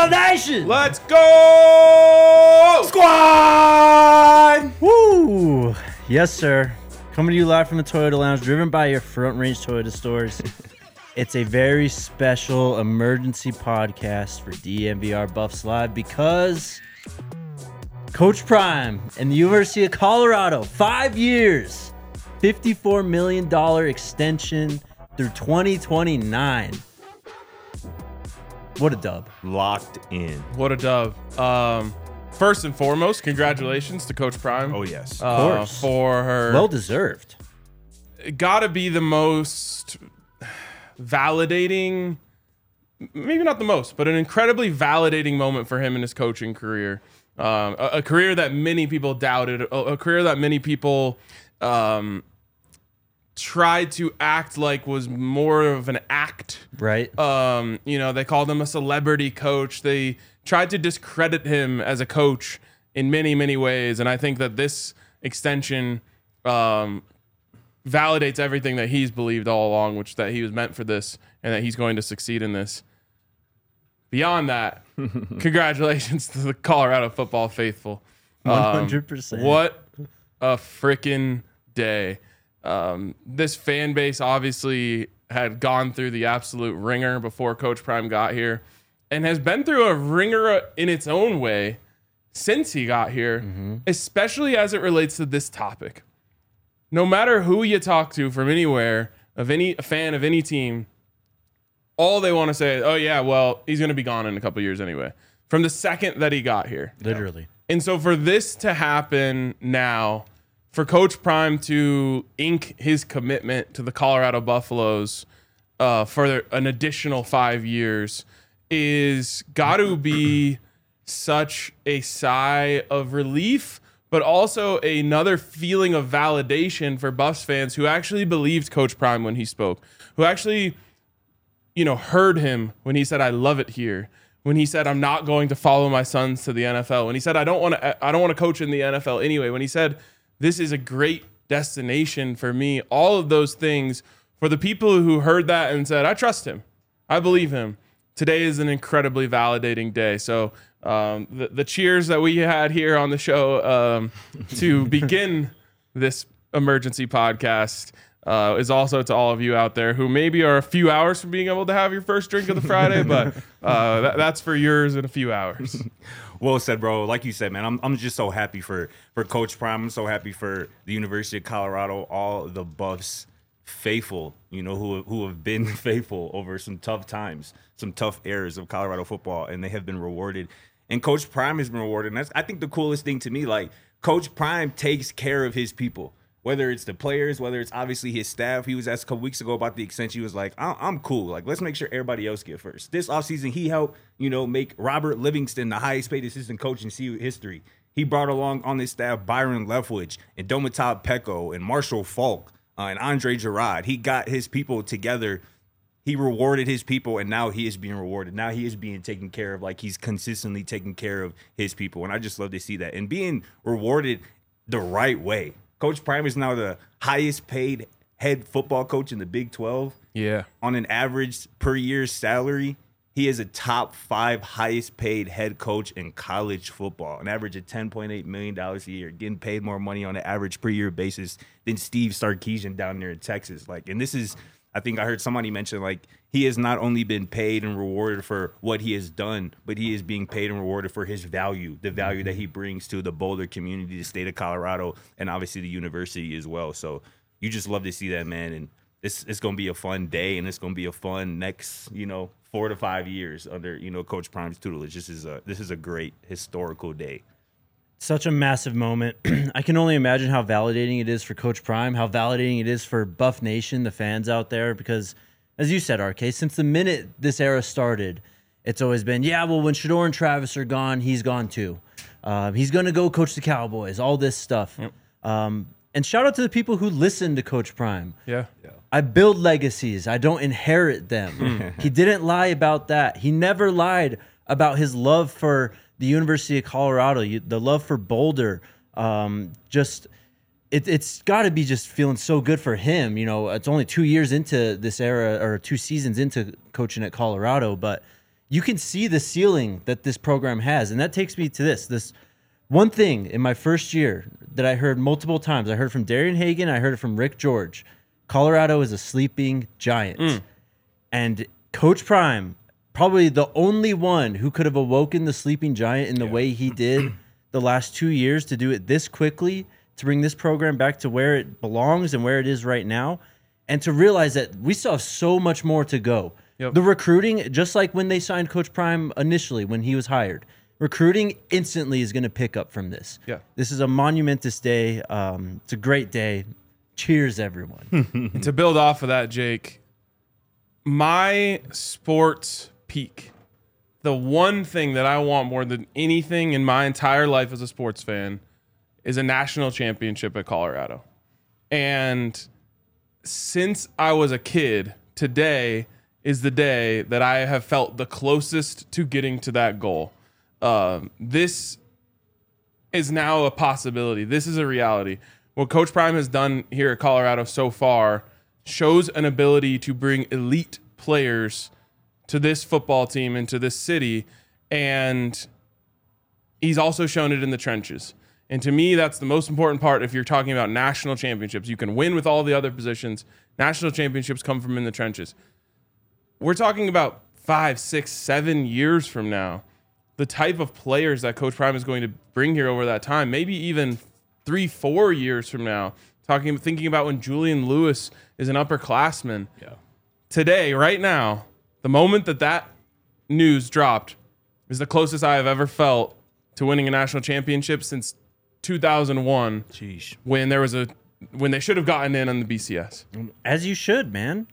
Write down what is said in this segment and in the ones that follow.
Buffalo Nation! Let's go! Squad! Woo! Yes, sir. Coming to you live from the Toyota Lounge, driven by your Front Range Toyota stores. It's a very special emergency podcast for DNVR Buffs Live because Coach Prime and the University of Colorado, 5 years, $54 million extension through 2029. What a dub. Locked in. What a dub. First and foremost, congratulations to Coach Prime. Oh, yes. Of course. For her. Well deserved. Gotta be the most validating, maybe not the most, but an incredibly validating moment for him in his coaching career. A career that many people doubted, a career that many people tried to act like was more of an act. Right. They called him a celebrity coach. They tried to discredit him as a coach in many, many ways. And I think that this extension validates everything that he's believed all along, which that he was meant for this and that he's going to succeed in this. Beyond that, congratulations to the Colorado football faithful. 100%. What a freaking day. This fan base obviously had gone through the absolute ringer before Coach Prime got here and has been through a ringer in its own way since he got here, especially as it relates to this topic. No matter who you talk to from anywhere, of any fan of any team, all they want to say is, oh yeah, well, he's going to be gone in a couple years anyway. From the second that he got here. Literally. And so for this to happen now, for Coach Prime to ink his commitment to the Colorado Buffaloes for an additional 5 years is got to be such a sigh of relief, but also another feeling of validation for Buffs fans who actually believed Coach Prime when he spoke, who actually, heard him when he said, "I love it here." When he said, "I'm not going to follow my sons to the NFL." When he said, "I don't want to coach in the NFL anyway." When he said, "This is a great destination for me." All of those things, for the people who heard that and said, "I trust him, I believe him," today is an incredibly validating day. So the cheers that we had here on the show to begin this emergency podcast is also to all of you out there who maybe are a few hours from being able to have your first drink of the Friday, but that's for yours in a few hours. Well said, bro. Like you said, man, I'm just so happy for Coach Prime. I'm so happy for the University of Colorado, all the Buffs faithful, who have been faithful over some tough times, some tough eras of Colorado football, and they have been rewarded. And Coach Prime has been rewarded. And that's, I think, the coolest thing to me. Like, Coach Prime takes care of his people, whether it's the players, whether it's obviously his staff. He was asked a couple weeks ago about the extension. He was like, I'm cool. Like, let's make sure everybody else get first. This offseason, he helped, make Robert Livingston the highest paid assistant coach in CU history. He brought along on his staff Byron Leftwich and Domitov Peko and Marshall Falk and Andre Gerard. He got his people together. He rewarded his people, and now he is being rewarded. Now he is being taken care of like he's consistently taking care of his people. And I just love to see that. And being rewarded the right way. Coach Prime is now the highest paid head football coach in the Big 12. Yeah. On an average per year salary, he is a top 5 highest paid head coach in college football, an average of $10.8 million a year, getting paid more money on an average per year basis than Steve Sarkisian down there in Texas. And this is, I think I heard somebody mention, he has not only been paid and rewarded for what he has done, but he is being paid and rewarded for his value, the value that he brings to the Boulder community, the state of Colorado, and obviously the university as well. So you just love to see that, man. And it's going to be a fun day, and it's going to be a fun next, 4 to 5 years under, Coach Prime's tutelage. This is a great historical day. Such a massive moment. I can only imagine how validating it is for Coach Prime, how validating it is for Buff Nation, the fans out there, because, as you said, RK, since the minute this era started, it's always been, when Shedeur and Travis are gone, he's gone too. He's going to go coach the Cowboys, all this stuff. Yep. And shout out to the people who listen to Coach Prime. Yeah. I build legacies. I don't inherit them. He didn't lie about that. He never lied about his love for the University of Colorado, the love for Boulder. It's got to be just feeling so good for him. It's only 2 years into this era, or 2 seasons into coaching at Colorado, but you can see the ceiling that this program has. And that takes me to this one thing in my first year that I heard multiple times. I heard from Darian Hagan. I heard it from Rick George. Colorado is a sleeping giant. And Coach Prime, probably the only one who could have awoken the sleeping giant in the way he did the last 2 years, to do it this quickly, to bring this program back to where it belongs and where it is right now, and to realize that we still have so much more to go. Yep. The recruiting, just like when they signed Coach Prime initially when he was hired, recruiting instantly is going to pick up from this. Yeah. This is a monumentous day. It's a great day. Cheers, everyone. And to build off of that, Jake, my sports peak, the one thing that I want more than anything in my entire life as a sports fan, is a national championship at Colorado. And since I was a kid, today is the day that I have felt the closest to getting to that goal. This is now a possibility. This is a reality. What Coach Prime has done here at Colorado so far shows an ability to bring elite players to this football team and to this city. And he's also shown it in the trenches. And to me, that's the most important part if you're talking about national championships. You can win with all the other positions. National championships come from in the trenches. We're talking about 5, 6, 7 years from now. The type of players that Coach Prime is going to bring here over that time, maybe even 3, 4 years from now, thinking about when Julian Lewis is an upperclassman. Yeah. Today, right now, the moment that news dropped is the closest I have ever felt to winning a national championship since 2001. Sheesh. When they should have gotten in on the BCS. As you should, man.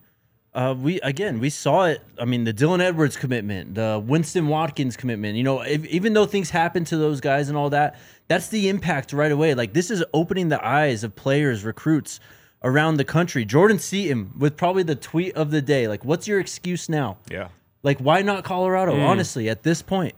We saw it. I mean, the Dylan Edwards commitment, the Winston Watkins commitment, even though things happen to those guys and all that, that's the impact right away. Like, this is opening the eyes of players, recruits around the country. Jordan Seaton with probably the tweet of the day. Like, what's your excuse now? Yeah. Like, why not Colorado? Honestly, at this point,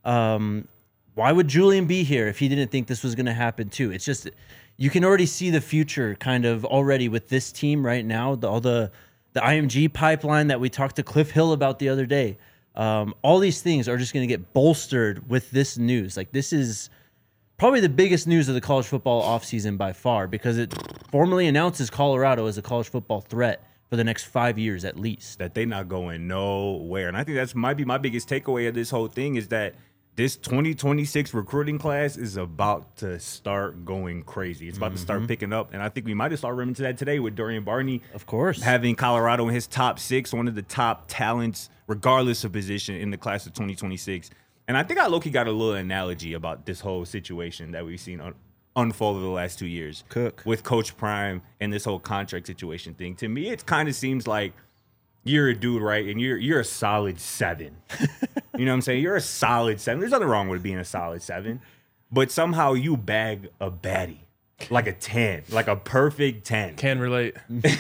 why would Julian be here if he didn't think this was going to happen too? It's just, you can already see the future kind of already with this team right now. All the IMG pipeline that we talked to Cliff Hill about the other day. All these things are just going to get bolstered with this news. Like, this is probably the biggest news of the college football offseason by far, because it formally announces Colorado as a college football threat for the next 5 years at least. That they not going nowhere. And I think that's might be my biggest takeaway of this whole thing, is that this 2026 recruiting class is about to start going crazy. It's about to start picking up. And I think we might have started running into that today with Dorian Barney. Of course. Having Colorado in his top 6, one of the top talents, regardless of position, in the class of 2026. And I think I low-key got a little analogy about this whole situation that we've seen unfold over the last 2 years. Cook. With Coach Prime and this whole contract situation thing. To me, it kind of seems like you're a dude, right? And you're a solid 7. You know what I'm saying? You're a solid 7. There's nothing wrong with being a solid 7. But somehow you bag a baddie. Like a 10. Like a perfect 10. Can relate.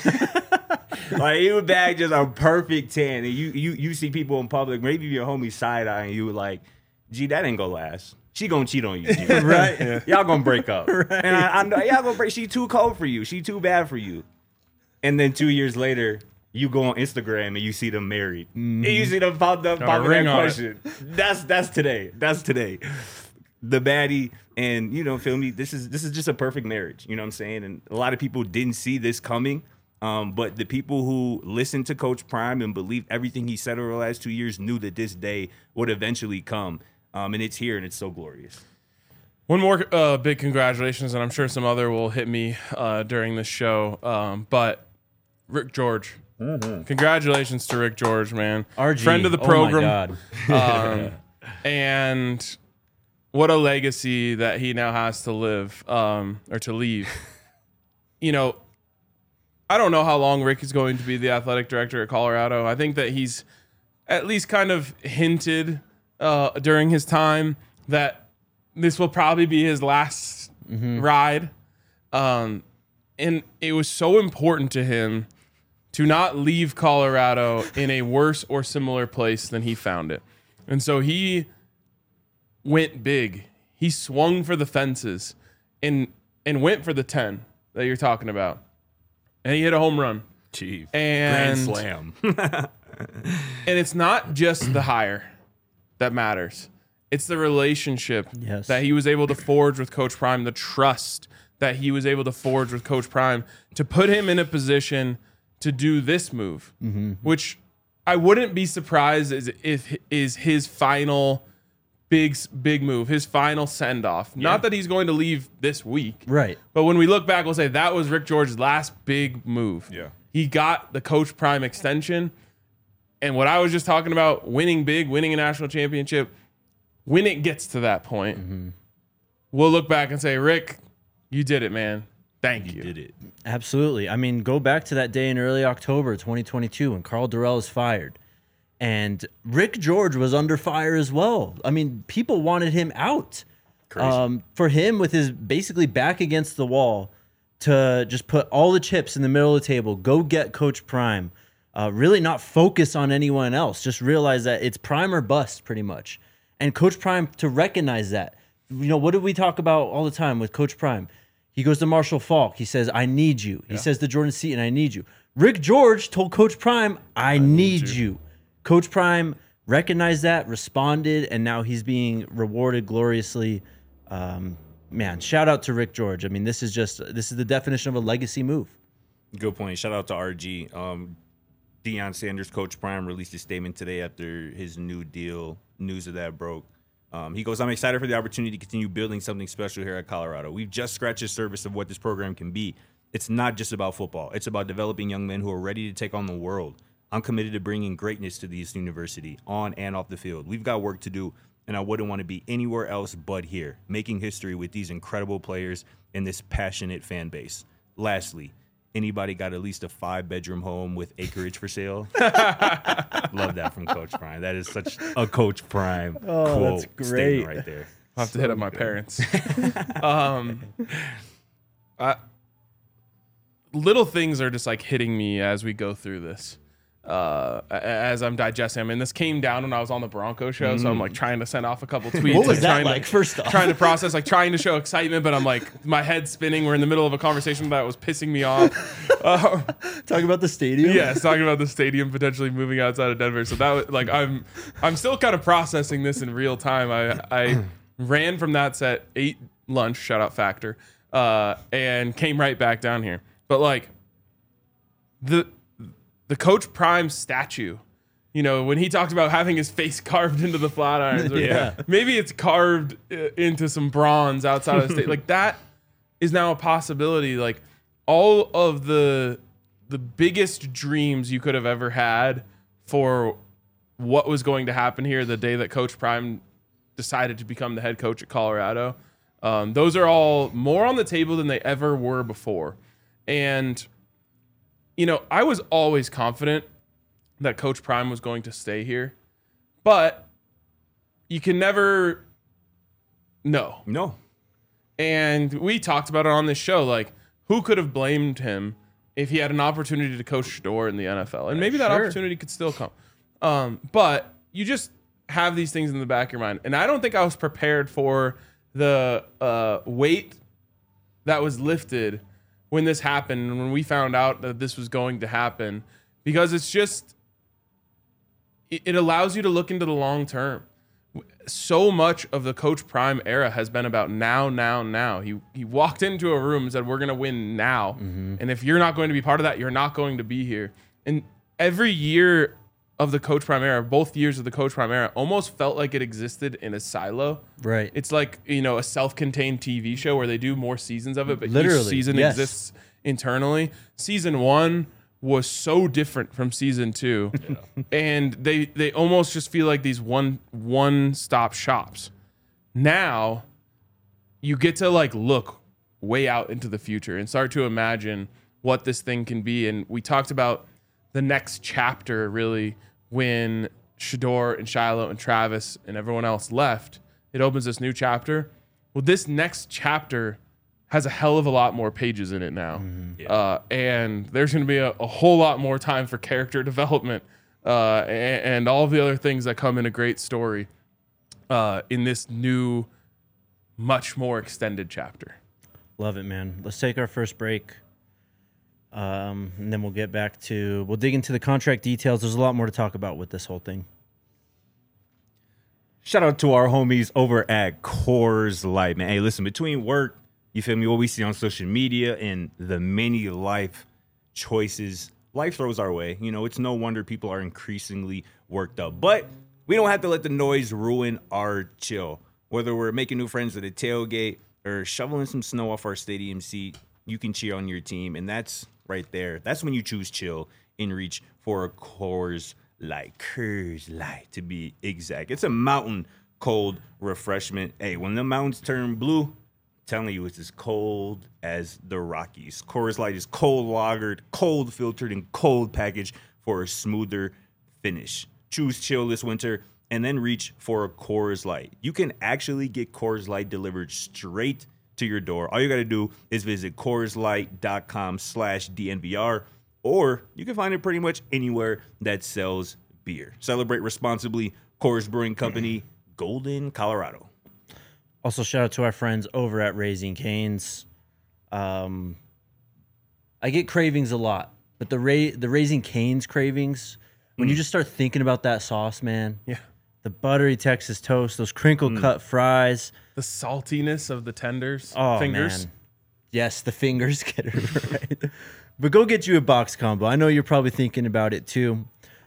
Like, you bag just a perfect 10. And you see people in public, maybe your homie side-eyeing you like, gee, that ain't gonna last. She gonna cheat on you. G. Right. Yeah. Y'all gonna break up. Right. And I know y'all gonna break. She too cold for you. She too bad for you. And then 2 years later, you go on Instagram and you see them married. And you see them pop up that question. That's today. That's today. The baddie, and feel me, this is just a perfect marriage. You know what I'm saying? And a lot of people didn't see this coming. But the people who listened to Coach Prime and believed everything he said over the last 2 years knew that this day would eventually come. And it's here, and it's so glorious. One more big congratulations, and I'm sure some other will hit me during this show. But Rick George. Congratulations to Rick George, man. RG. Friend of the program. Oh my God. And what a legacy that he now has to live, or to leave. I don't know how long Rick is going to be the athletic director at Colorado. I think that he's at least kind of hinted during his time that this will probably be his last ride. And it was so important to him to not leave Colorado in a worse or similar place than he found it. And so he went big. He swung for the fences and went for the 10 that you're talking about. And he hit a home run. Chief. And Grand slam. And it's not just the hire. that matters. It's the relationship Yes. that he was able to forge with Coach Prime, the trust that he was able to forge with Coach Prime to put him in a position to do this move, which I wouldn't be surprised if is his final big move, his final send off. Not that he's going to leave this week, Right. but when we look back, we'll say that was Rick George's last big move. Yeah. He got the Coach Prime extension, and what I was just talking about, winning big, winning a national championship. When it gets to that point, we'll look back and say, Rick, you did it, man. Thank you. You did it. Absolutely. I mean, go back to that day in early October 2022 when Carl Durrell was fired. And Rick George was under fire as well. I mean, people wanted him out. Crazy. For him, with his basically back against the wall, to just put all the chips in the middle of the table, go get Coach Prime, really not focus on anyone else, just realize that it's Prime or bust pretty much. And Coach Prime to recognize that. You know, what do we talk about all the time with Coach Prime? He goes to Marshall Faulk. He says, I need you. He says to Jordan Seaton, I need you. Rick George told Coach Prime, I need you. Coach Prime recognized that, responded, and now he's being rewarded gloriously. Man, shout out to Rick George. I mean, this is the definition of a legacy move. Good point. Shout out to RG. Deion Sanders, Coach Prime, released a statement today after his new deal, news of that broke. He goes, I'm excited for the opportunity to continue building something special here at Colorado. We've just scratched the surface of what this program can be. It's not just about football. It's about developing young men who are ready to take on the world. I'm committed to bringing greatness to this university on and off the field. We've got work to do, and I wouldn't want to be anywhere else but here, making history with these incredible players and this passionate fan base. Lastly, anybody got at least a 5-bedroom home with acreage for sale? Love that from Coach Prime. That is such a Coach Prime quote that's great. statement right there. I'll have to hit up my parents. Little things are just like hitting me as we go through this. As I'm digesting. I mean, this came down when I was on the Bronco show, so I'm like trying to send off a couple tweets. What was that trying like, first off? Trying to process, like trying to show excitement, but I'm like, my head's spinning. We're in the middle of a conversation that was pissing me off. Talking about the stadium? Yes, talking about the stadium potentially moving outside of Denver. So that was like, I'm still kind of processing this in real time. I ran from that set, ate lunch, shout out Factor, and came right back down here. But like the Coach Prime statue, you know, when he talked about having his face carved into the flat irons, or maybe it's carved into some bronze outside of the state, like that is now a possibility. Like all of the biggest dreams you could have ever had for what was going to happen here the day that Coach Prime decided to become the head coach at Colorado, those are all more on the table than they ever were before. And you know, I was always confident that Coach Prime was going to stay here, but you can never know. No. And we talked about it on this show, like who could have blamed him if he had an opportunity to coach Shedeur in the NFL? And maybe that opportunity could still come. But you just have these things in the back of your mind. And I don't think I was prepared for the weight that was lifted when this happened and when we found out that this was going to happen, because it's just, it allows you to look into the long term. So much of the Coach Prime era has been about now. He walked into a room and said, we're going to win now. And if you're not going to be part of that, you're not going to be here. And every year of the Coach Prime era, both years of the Coach Prime era, almost felt like it existed in a silo. Right. It's like, you know, a self-contained TV show where they do more seasons of it, but Literally, each season yes. exists internally. Season 1 was so different from season 2. And they almost just feel like these one-stop shops. Now you get to like look way out into the future and start to imagine what this thing can be. And we talked about the next chapter really when Shedeur and Shiloh and Travis and everyone else left. It opens this new chapter. Well, this next chapter has a hell of a lot more pages in it now. And there's going to be a whole lot more time for character development and all of the other things that come in a great story in this new, much more extended chapter. Love it, man. Let's take our first break. And then we'll dig into the contract details. There's a lot more to talk about with this whole thing. Shout out to our homies over at Coors Light, man. Hey, listen, between work, you feel me, what we see on social media and the many life choices life throws our way, it's no wonder people are increasingly worked up. But we don't have to let the noise ruin our chill. Whether we're making new friends at a tailgate or shoveling some snow off our stadium seat, you can cheer on your team. And that's right there. That's when you choose chill and reach for a Coors Light to be exact. It's a mountain cold refreshment. Hey, when the mountains turn blue, I'm telling you, it's as cold as the Rockies. Coors Light is cold lagered, cold filtered, and cold packaged for a smoother finish. Choose chill this winter and then reach for a Coors Light. You can actually get Coors Light delivered straight to your door. All you got to do is visit CoorsLight.com/DNVR, or you can find it pretty much anywhere that sells beer. Celebrate responsibly. Coors Brewing Company, Golden, Colorado. Also, shout out to our friends over at Raising Cane's. I get cravings a lot, but the Raising Cane's cravings, when you just start thinking about that sauce, man. Yeah. The buttery Texas toast, those crinkle cut fries. The saltiness of the tenders. Oh, fingers. Man. Yes, the fingers get it right. But go get you a box combo. I know you're probably thinking about it too.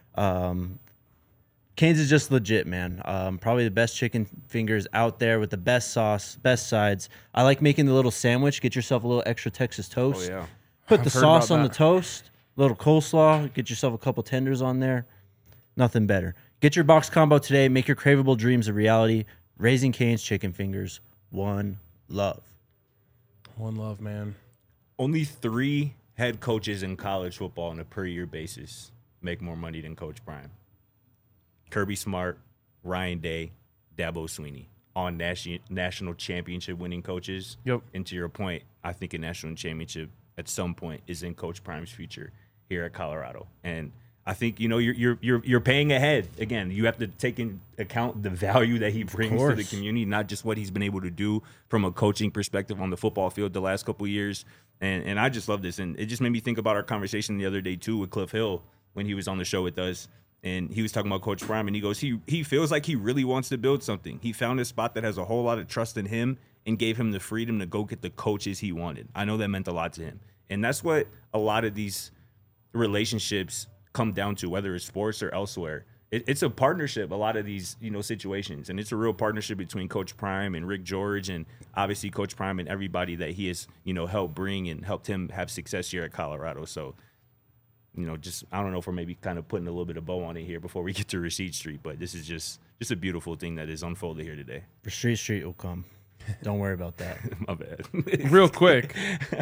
Cane's is just legit, man. Probably the best chicken fingers out there with the best sauce, best sides. I like making the little sandwich. Get yourself a little extra Texas toast. Oh, yeah. Put I've the heard sauce about on that. the toast, a little coleslaw. Get yourself a couple tenders on there. Nothing better. Get your box combo today. Make your craveable dreams a reality. Raising Cane's chicken fingers. One love. One love, man. Only 3 head coaches in college football on a per-year basis make more money than Coach Prime. Kirby Smart, Ryan Day, Dabo Swinney. All national championship winning coaches. Yep. And to your point, I think a national championship at some point is in Coach Prime's future here at Colorado. And I think you're paying ahead. Again, you have to take into account the value that he brings to the community, not just what he's been able to do from a coaching perspective on the football field the last couple of years. And I just love this, and it just made me think about our conversation the other day too with Cliff Hill when he was on the show with us, and he was talking about Coach Prime, and he goes, he feels like he really wants to build something. He found a spot that has a whole lot of trust in him and gave him the freedom to go get the coaches he wanted. I know that meant a lot to him, and that's what a lot of these relationships come down to, whether it's sports or elsewhere. It's a partnership, a lot of these situations, and it's a real partnership between Coach Prime and Rick George, and obviously Coach Prime and everybody that he has helped bring and helped him have success here at Colorado. So just I don't know if we're maybe kind of putting a little bit of bow on it here before we get to Rasheed Street, but this is just a beautiful thing that is unfolded here today. Rasheed Street will come. Don't worry about that. My bad. Real quick,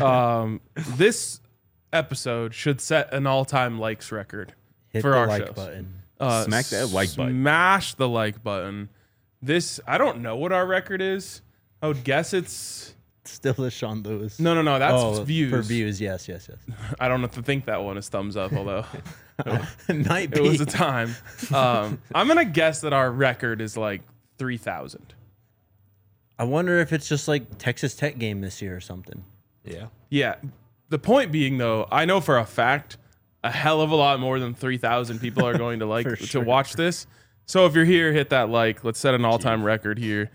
this episode should set an all-time likes record Hit for the our like shows. button. Smack that like button. Smash the like button. This, I don't know what our record is. I would guess it's Still the Sean Lewis. no. That's views. For views, yes. I don't have to think that one is thumbs up, although Might be. it was a time. I'm gonna guess that our record is like 3,000. I wonder if it's just like Texas Tech game this year or something. Yeah. Yeah. The point being, though, I know for a fact a hell of a lot more than 3,000 people are going to For to sure. watch this. So if you're here, hit that like. Let's set an all-time record here,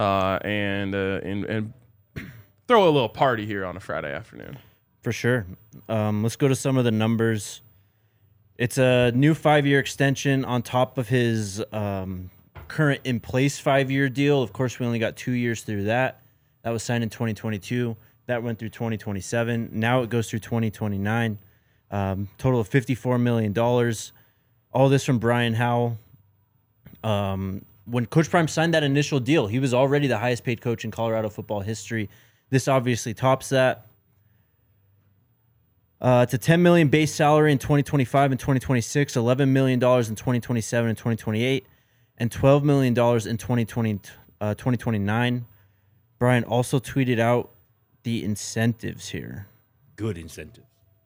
and throw a little party here on a Friday afternoon. For sure. Let's go to some of the numbers. It's a new 5-year extension on top of his current in-place 5-year deal. Of course, we only got 2 years through that. That was signed in 2022. That went through 2027. Now it goes through 2029. Total of $54 million. All this from Brian Howell. When Coach Prime signed that initial deal, he was already the highest paid coach in Colorado football history. This obviously tops that. It's a $10 million base salary in 2025 and 2026, $11 million in 2027 and 2028, and $12 million in 2029. Brian also tweeted out the incentives here. Good incentives.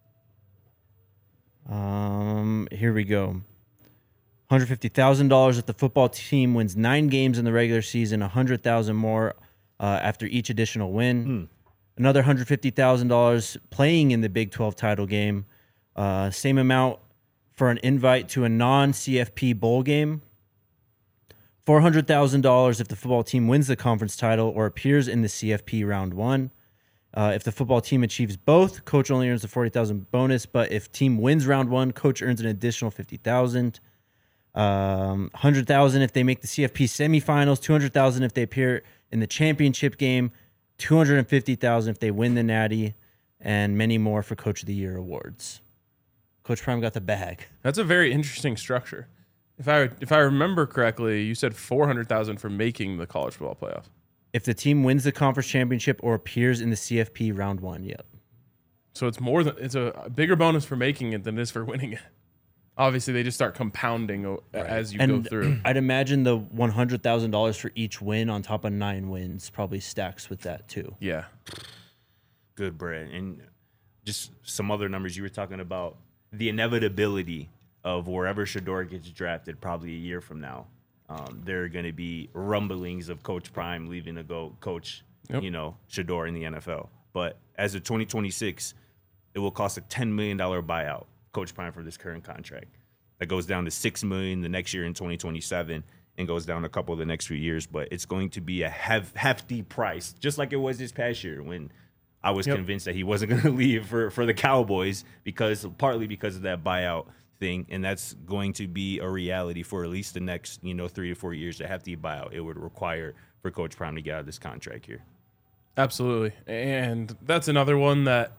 Here we go. $150,000 if the football team wins 9 games in the regular season, $100,000 more after each additional win. Another $150,000 playing in the Big 12 title game. Same amount for an invite to a non-CFP bowl game. $400,000 if the football team wins the conference title or appears in the CFP round 1. If the football team achieves both, coach only earns the $40,000 bonus. But if team wins round 1, coach earns an additional $50,000. $100,000 if they make the CFP semifinals. $200,000 if they appear in the championship game. $250,000 if they win the Natty, and many more for Coach of the Year awards. Coach Prime got the bag. That's a very interesting structure. If I remember correctly, you said $400,000 for making the college football playoff. If the team wins the conference championship or appears in the CFP round 1, yep. So it's a bigger bonus for making it than it is for winning it. Obviously, they just start compounding as you go through. I'd imagine the $100,000 for each win on top of 9 wins probably stacks with that too. Yeah. Good, Brett. And just some other numbers you were talking about, the inevitability of wherever Shedeur gets drafted probably a year from now. There are going to be rumblings of Coach Prime leaving to go coach, Shedeur in the NFL. But as of 2026, it will cost a $10 million buyout, Coach Prime, for this current contract. That goes down to $6 million the next year in 2027 and goes down a couple of the next few years. But it's going to be a hefty price, just like it was this past year when I was convinced that he wasn't going to leave for the Cowboys partly because of that buyout thing, and that's going to be a reality for at least the next 3 to 4 years. To hefty buyout it would require for Coach Prime to get out of this contract here. Absolutely, and that's another one that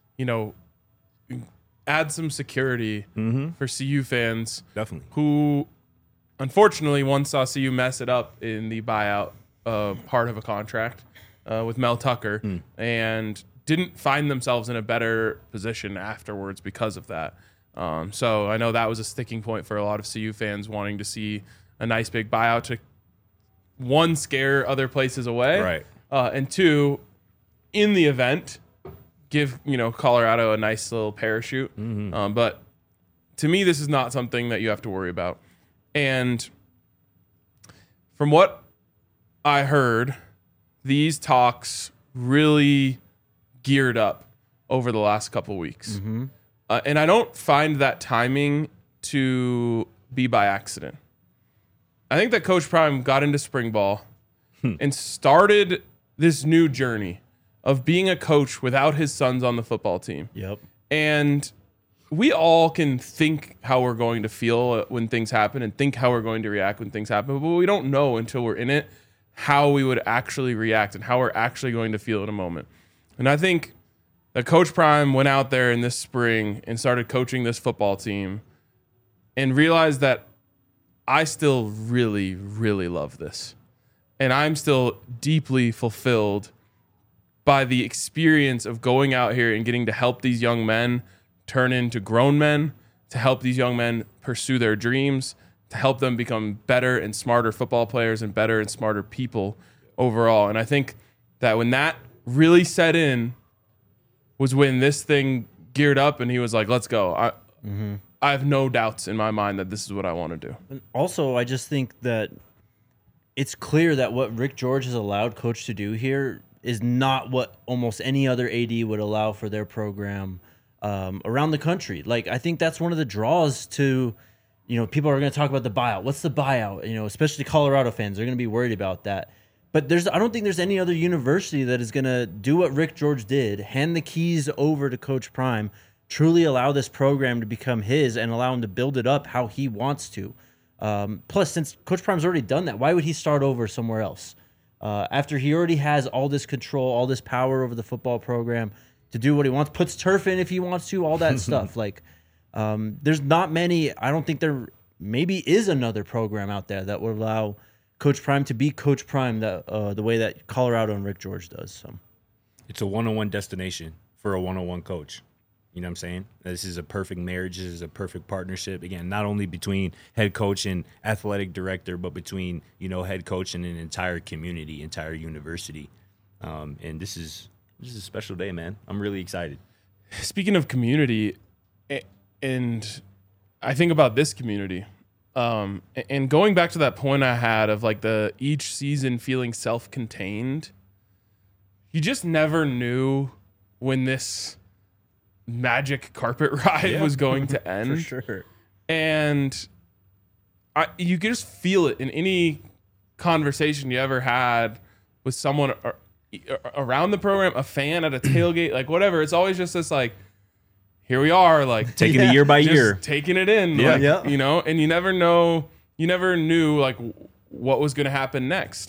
add some security for CU fans. Definitely. Who, unfortunately, once saw CU mess it up in the buyout part of a contract with Mel Tucker and didn't find themselves in a better position afterwards because of that. So I know that was a sticking point for a lot of CU fans wanting to see a nice big buyout to, one, scare other places away. Right. And two, in the event, give Colorado a nice little parachute. But to me, this is not something that you have to worry about. And from what I heard, these talks really geared up over the last couple weeks. And I don't find that timing to be by accident. I think that Coach Prime got into spring ball and started this new journey of being a coach without his sons on the football team. Yep. And we all can think how we're going to feel when things happen and think how we're going to react when things happen, but we don't know until we're in it how we would actually react and how we're actually going to feel in a moment. And I think that Coach Prime went out there in this spring and started coaching this football team and realized that I still really, really love this. And I'm still deeply fulfilled by the experience of going out here and getting to help these young men turn into grown men, to help these young men pursue their dreams, to help them become better and smarter football players and better and smarter people overall. And I think that when that really set in was when this thing geared up and he was like, let's go. I have no doubts in my mind that this is what I want to do. And also, I just think that it's clear that what Rick George has allowed Coach to do here is not what almost any other AD would allow for their program around the country. Like, I think that's one of the draws to, people are going to talk about the buyout. What's the buyout? Especially Colorado fans, they're going to be worried about that. But I don't think there's any other university that is going to do what Rick George did, hand the keys over to Coach Prime, truly allow this program to become his and allow him to build it up how he wants to. Plus, since Coach Prime's already done that, why would he start over somewhere else? After he already has all this control, all this power over the football program to do what he wants, puts turf in if he wants to, all that stuff. Like, there's not many. I don't think there maybe is another program out there that would allow Coach Prime to be Coach Prime the way that Colorado and Rick George does. So, it's a one-on-one destination for a one-on-one coach. You know what I'm saying? This is a perfect marriage. This is a perfect partnership. Again, not only between head coach and athletic director, but between, head coach and an entire community, entire university. And this is a special day, man. I'm really excited. Speaking of community, and I think about this community, and going back to that point I had of like each season feeling self-contained, you just never knew when this magic carpet ride was going to end. For sure. And you can just feel it in any conversation you ever had with someone around the program, a fan at a tailgate, like whatever. It's always just this like, here we are, like Taking it year by year. taking it in, Yeah. like, Yeah. you know, and you never knew like what was going to happen next.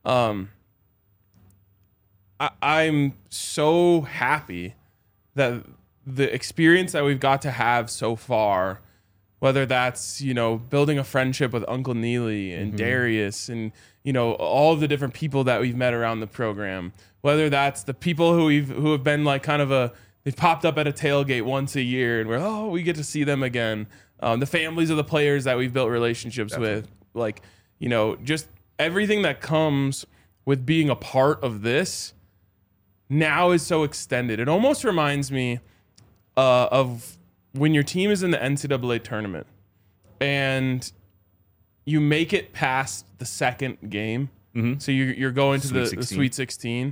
I'm so happy that the experience that we've got to have so far, whether that's, you know, building a friendship with Uncle Neely and Darius and, you know, all of the different people that we've met around the program, whether that's the people who have been like kind of they've popped up at a tailgate once a year and we get to see them again. The families of the players that we've built relationships with, like, you know, just everything that comes with being a part of this now is so extended. It almost reminds me of when your team is in the NCAA tournament and you make it past the second game. Mm-hmm. So you're going to the Sweet 16.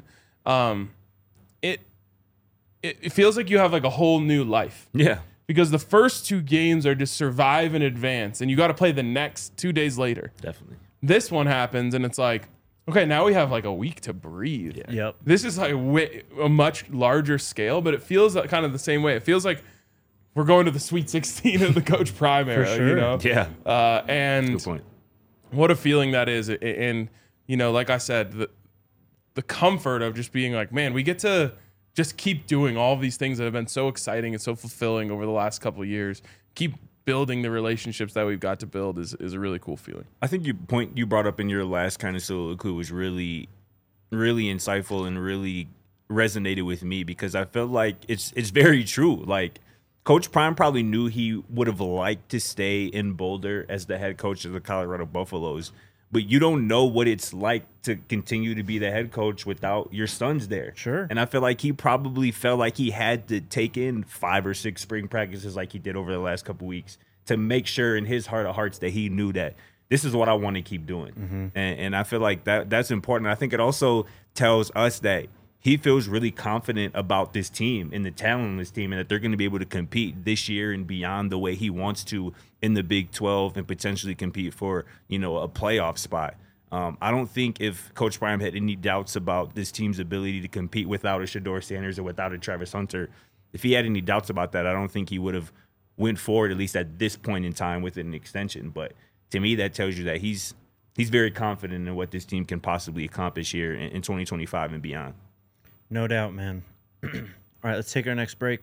It feels like you have like a whole new life. Yeah. Because the first 2 games are just survive and advance, and you got to play the next 2 days later. Definitely. This one happens, and it's like, okay, now we have like a week to breathe. Yeah. Yep. This is like a much larger scale, but it feels like kind of the same way. It feels like we're going to the Sweet 16 of the Coach Prime era, sure. you know? Yeah. And Good point. what a feeling that is. And, you know, like I said, the comfort of just being like, man, we get to just keep doing all of these things that have been so exciting and so fulfilling over the last couple of years. Keep building the relationships that we've got to build is a really cool feeling. I think you brought up in your last kind of soliloquy was really, really insightful and really resonated with me because I felt like it's very true. Like Coach Prime probably knew he would have liked to stay in Boulder as the head coach of the Colorado Buffaloes, but you don't know what it's like to continue to be the head coach without your sons there. Sure. And I feel like he probably felt like he had to take in 5 or 6 spring practices like he did over the last couple weeks to make sure in his heart of hearts that he knew that this is what I want to keep doing. Mm-hmm. And I feel like that's important. I think it also tells us that he feels really confident about this team and the talent on this team and that they're going to be able to compete this year and beyond the way he wants to in the Big 12 and potentially compete for, you know, a playoff spot. I don't think if Coach Prime had any doubts about this team's ability to compete without a Shedeur Sanders or without a Travis Hunter, if he had any doubts about that, I don't think he would have went forward, at least at this point in time, with an extension. But to me, that tells you that he's very confident in what this team can possibly accomplish here in 2025 and beyond. No doubt, man. All right, let's take our next break.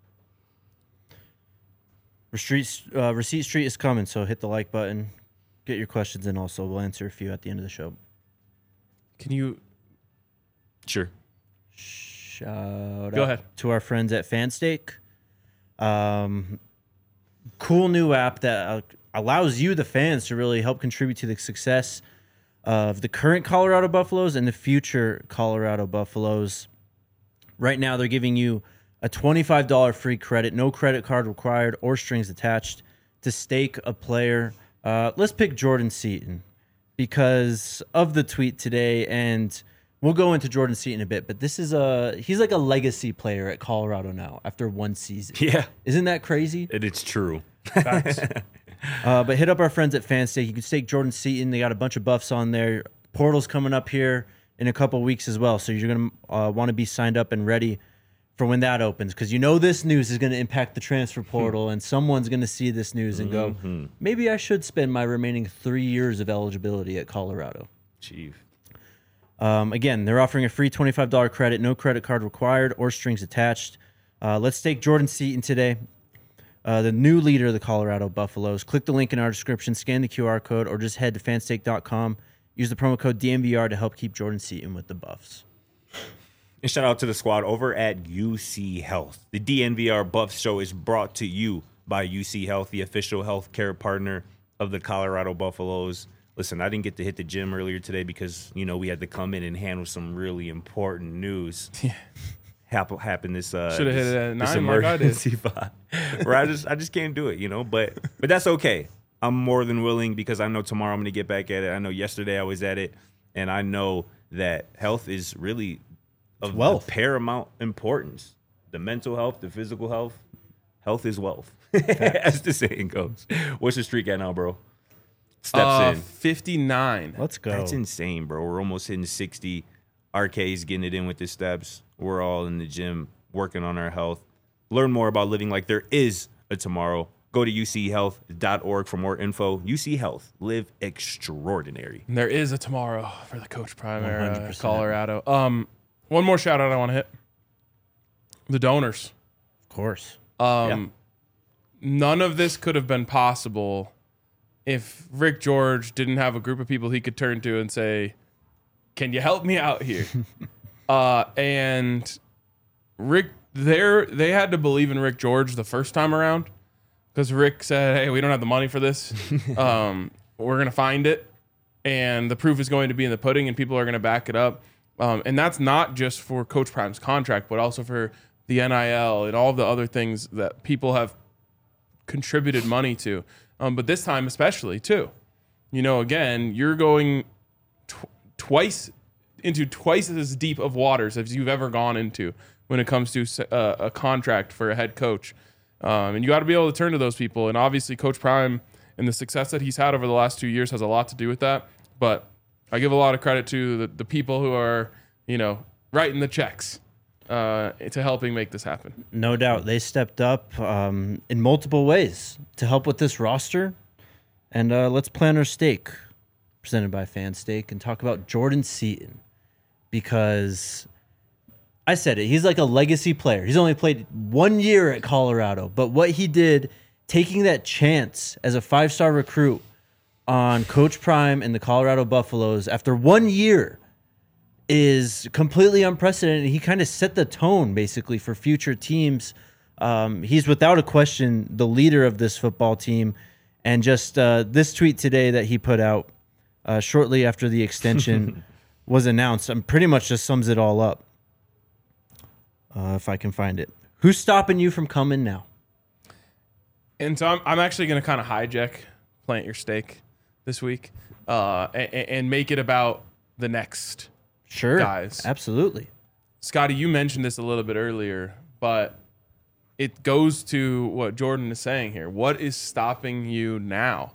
Receipt Street is coming, so hit the like button. Get your questions in also. We'll answer a few at the end of the show. Can you Sure. Shout Go out ahead. to our friends at Fanstake. Cool new app that allows you, the fans, to really help contribute to the success of the current Colorado Buffaloes and the future Colorado Buffaloes. Right now, they're giving you a $25 free credit, no credit card required or strings attached, to stake a player. Let's pick Jordan Seaton because of the tweet today, and we'll go into Jordan Seaton a bit, but he's like a legacy player at Colorado now after one season. Yeah. Isn't that crazy? It's true. But hit up our friends at Fanstake. You can stake Jordan Seaton. They got a bunch of buffs on there. Portal's coming up here in a couple weeks as well, so you're going to want to be signed up and ready for when that opens, because you know this news is going to impact the transfer portal, and someone's going to see this news and go, maybe I should spend my remaining 3 years of eligibility at Colorado. Chief. Again, they're offering a free $25 credit, no credit card required or strings attached. Let's take Jordan Seaton today, the new leader of the Colorado Buffaloes. Click the link in our description, scan the QR code, or just head to fanstake.com. Use the promo code DNVR to help keep Jordan Seaton with the Buffs. And shout out to the squad over at UC Health. The DNVR Buffs show is brought to you by UC Health, the official healthcare partner of the Colorado Buffaloes. Listen, I didn't get to hit the gym earlier today because, you know, we had to come in and handle some really important news. Yeah. Happened this Should have hit it at 9 like I did. emergency spot, where I just can't do it, you know. But that's okay. I'm more than willing because I know tomorrow I'm going to get back at it. I know yesterday I was at it, and I know that health is really of wealth. Paramount importance. The mental health, the physical health. Health is wealth, as the saying goes. What's the streak at now, bro? steps in? 59. Let's go. That's insane, bro. We're almost hitting 60. RK's getting it in with his steps. We're all in the gym working on our health. Learn more about living like there is a tomorrow. Go to uchealth.org for more info. UC Health. Live extraordinary. And there is a tomorrow for the Coach Prime era, 100%. Colorado. One more shout out I want to hit. The donors. Of course. None of this could have been possible if Rick George didn't have a group of people he could turn to and say, can you help me out here? And Rick, they had to believe in Rick George the first time around because Rick said, hey, we don't have the money for this. We're going to find it. And the proof is going to be in the pudding and people are going to back it up. And that's not just for Coach Prime's contract, but also for the NIL and all the other things that people have contributed money to. But this time especially too, again, you're going twice as deep of waters as you've ever gone into when it comes to a contract for a head coach. And you got to be able to turn to those people. And obviously Coach Prime and the success that he's had over the last 2 years has a lot to do with that. But I give a lot of credit to the people who are, writing the checks to helping make this happen. No doubt. They stepped up in multiple ways to help with this roster. And let's plan our steak, presented by Fan Steak, and talk about Jordan Seaton. Because I said it, he's like a legacy player. He's only played 1 year at Colorado. But what he did, taking that chance as a 5-star recruit on Coach Prime and the Colorado Buffaloes after 1 year, is completely unprecedented. He kind of set the tone, basically, for future teams. He's without a question the leader of this football team. And just this tweet today that he put out shortly after the extension was announced, pretty much just sums it all up. If I can find it. Who's stopping you from coming now? And so I'm actually going to kind of hijack Plant Your Steak this week and make it about the next guys. Absolutely. Scotty, you mentioned this a little bit earlier, but it goes to what Jordan is saying here. What is stopping you now?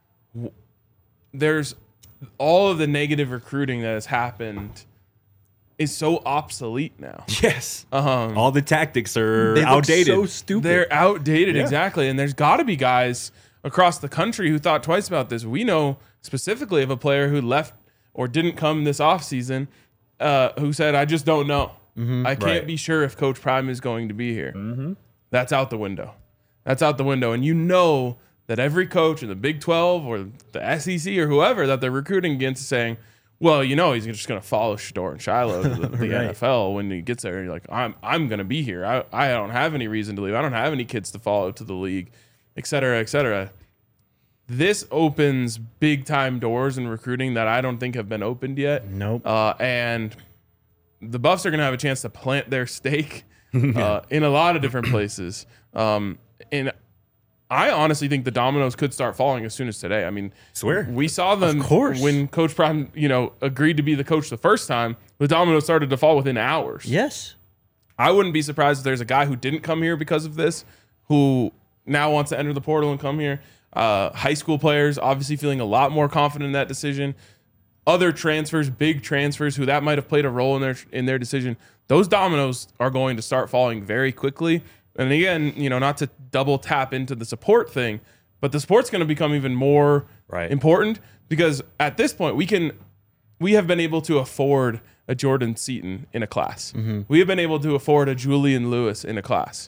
There's all of the negative recruiting that has happened is so obsolete now. Yes. All the tactics are They look outdated. so stupid. They're outdated, Yeah. exactly. And there's got to be guys across the country who thought twice about this. We know specifically of a player who left or didn't come this offseason who said, I just don't know. I can't be sure if Coach Prime is going to be here. That's out the window. That's out the window. And you know that every coach in the Big 12 or the SEC or whoever that they're recruiting against is saying, well, he's just going to follow Shador and Shiloh to the Right. NFL when he gets there. And you're like, I'm going to be here. I don't have any reason to leave. I don't have any kids to follow to the league, et cetera, et cetera. This opens big time doors in recruiting that I don't think have been opened yet. Nope. And the Buffs are going to have a chance to plant their stake in a lot of different places. And I honestly think the dominoes could start falling as soon as today. I mean, Swear. we saw them Of course. when Coach Prime, agreed to be the coach the first time. The dominoes started to fall within hours. Yes. I wouldn't be surprised if there's a guy who didn't come here because of this, who now wants to enter the portal and come here. High school players obviously feeling a lot more confident in that decision. Other transfers, big transfers, who that might have played a role in their decision. Those dominoes are going to start falling very quickly. And again, not to double tap into the support thing, but the support's going to become even more important because at this point we have been able to afford a Jordan Seaton in a class. We have been able to afford a Julian Lewis in a class.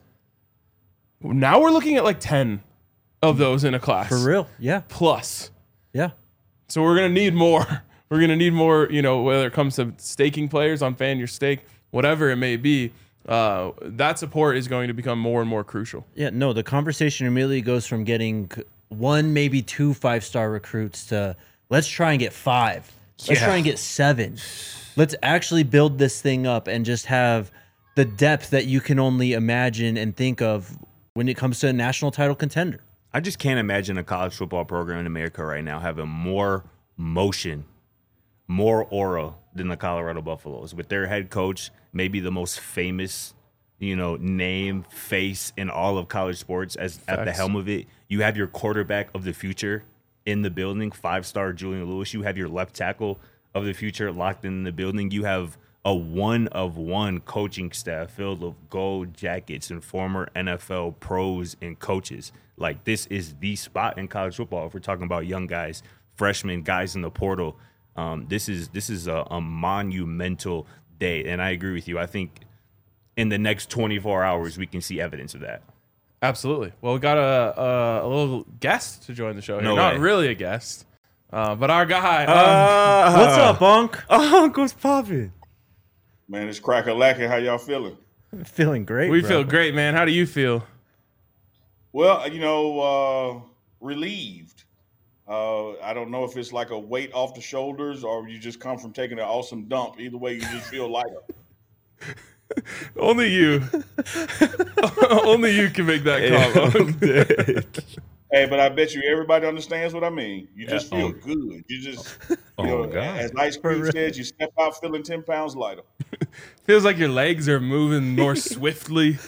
Now we're looking at like 10 of those in a class. For real. Yeah. Plus. Yeah. So we're going to need more. We're going to need more, whether it comes to staking players on Fan Your Stake, whatever it may be. That support is going to become more and more crucial. Yeah, no, the conversation immediately goes from getting 1, maybe 2 5-star recruits to let's try and get 5. Let's try and get 7. Let's actually build this thing up and just have the depth that you can only imagine and think of when it comes to a national title contender. I just can't imagine a college football program in America right now having more motion, more aura than the Colorado Buffaloes, with their head coach, maybe the most famous, name, face in all of college sports at the helm of it. You have your quarterback of the future in the building, 5-star Julian Lewis. You have your left tackle of the future locked in the building. You have a one-of-one coaching staff filled with gold jackets and former NFL pros and coaches. Like, this is the spot in college football. If we're talking about young guys, freshmen, guys in the portal, this is a monumental day. And I agree with you. I think in the next 24 hours, we can see evidence of that. Absolutely. Well, we got a little guest to join the show here. No Not way. really a guest, but our guy. What's up, Unc? Uncle's popping. Man, it's crack-a-lackin'. How y'all feeling? Feeling great. We bro. feel great, man. How do you feel? Well, relieved. I don't know if it's like a weight off the shoulders or you just come from taking an awesome dump. Either way, you just feel lighter. Only you. Only you can make that comment. Hey, but I bet you everybody understands what I mean. You just feel good. You just, God. as Ice Cream says, you step out feeling 10 pounds lighter. Feels like your legs are moving more swiftly.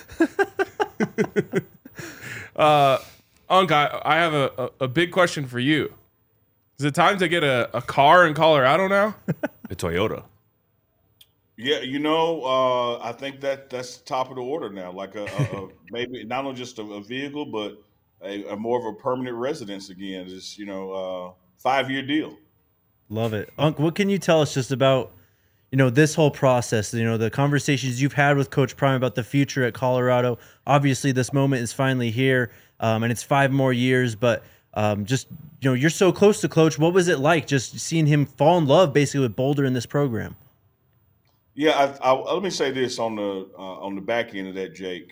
Unc, I have a big question for you. Is it time to get a car in Colorado now? A Toyota. Yeah, I think that's top of the order now. Like a maybe not only just a vehicle, but a more of a permanent residence again. Just 5-year deal. Love it. Unc, what can you tell us just about, this whole process, the conversations you've had with Coach Prime about the future at Colorado? Obviously, this moment is finally here, and it's 5 more years, but you're so close to Coach. What was it like just seeing him fall in love basically with Boulder in this program? Yeah, let me say this on the back end of that, Jake.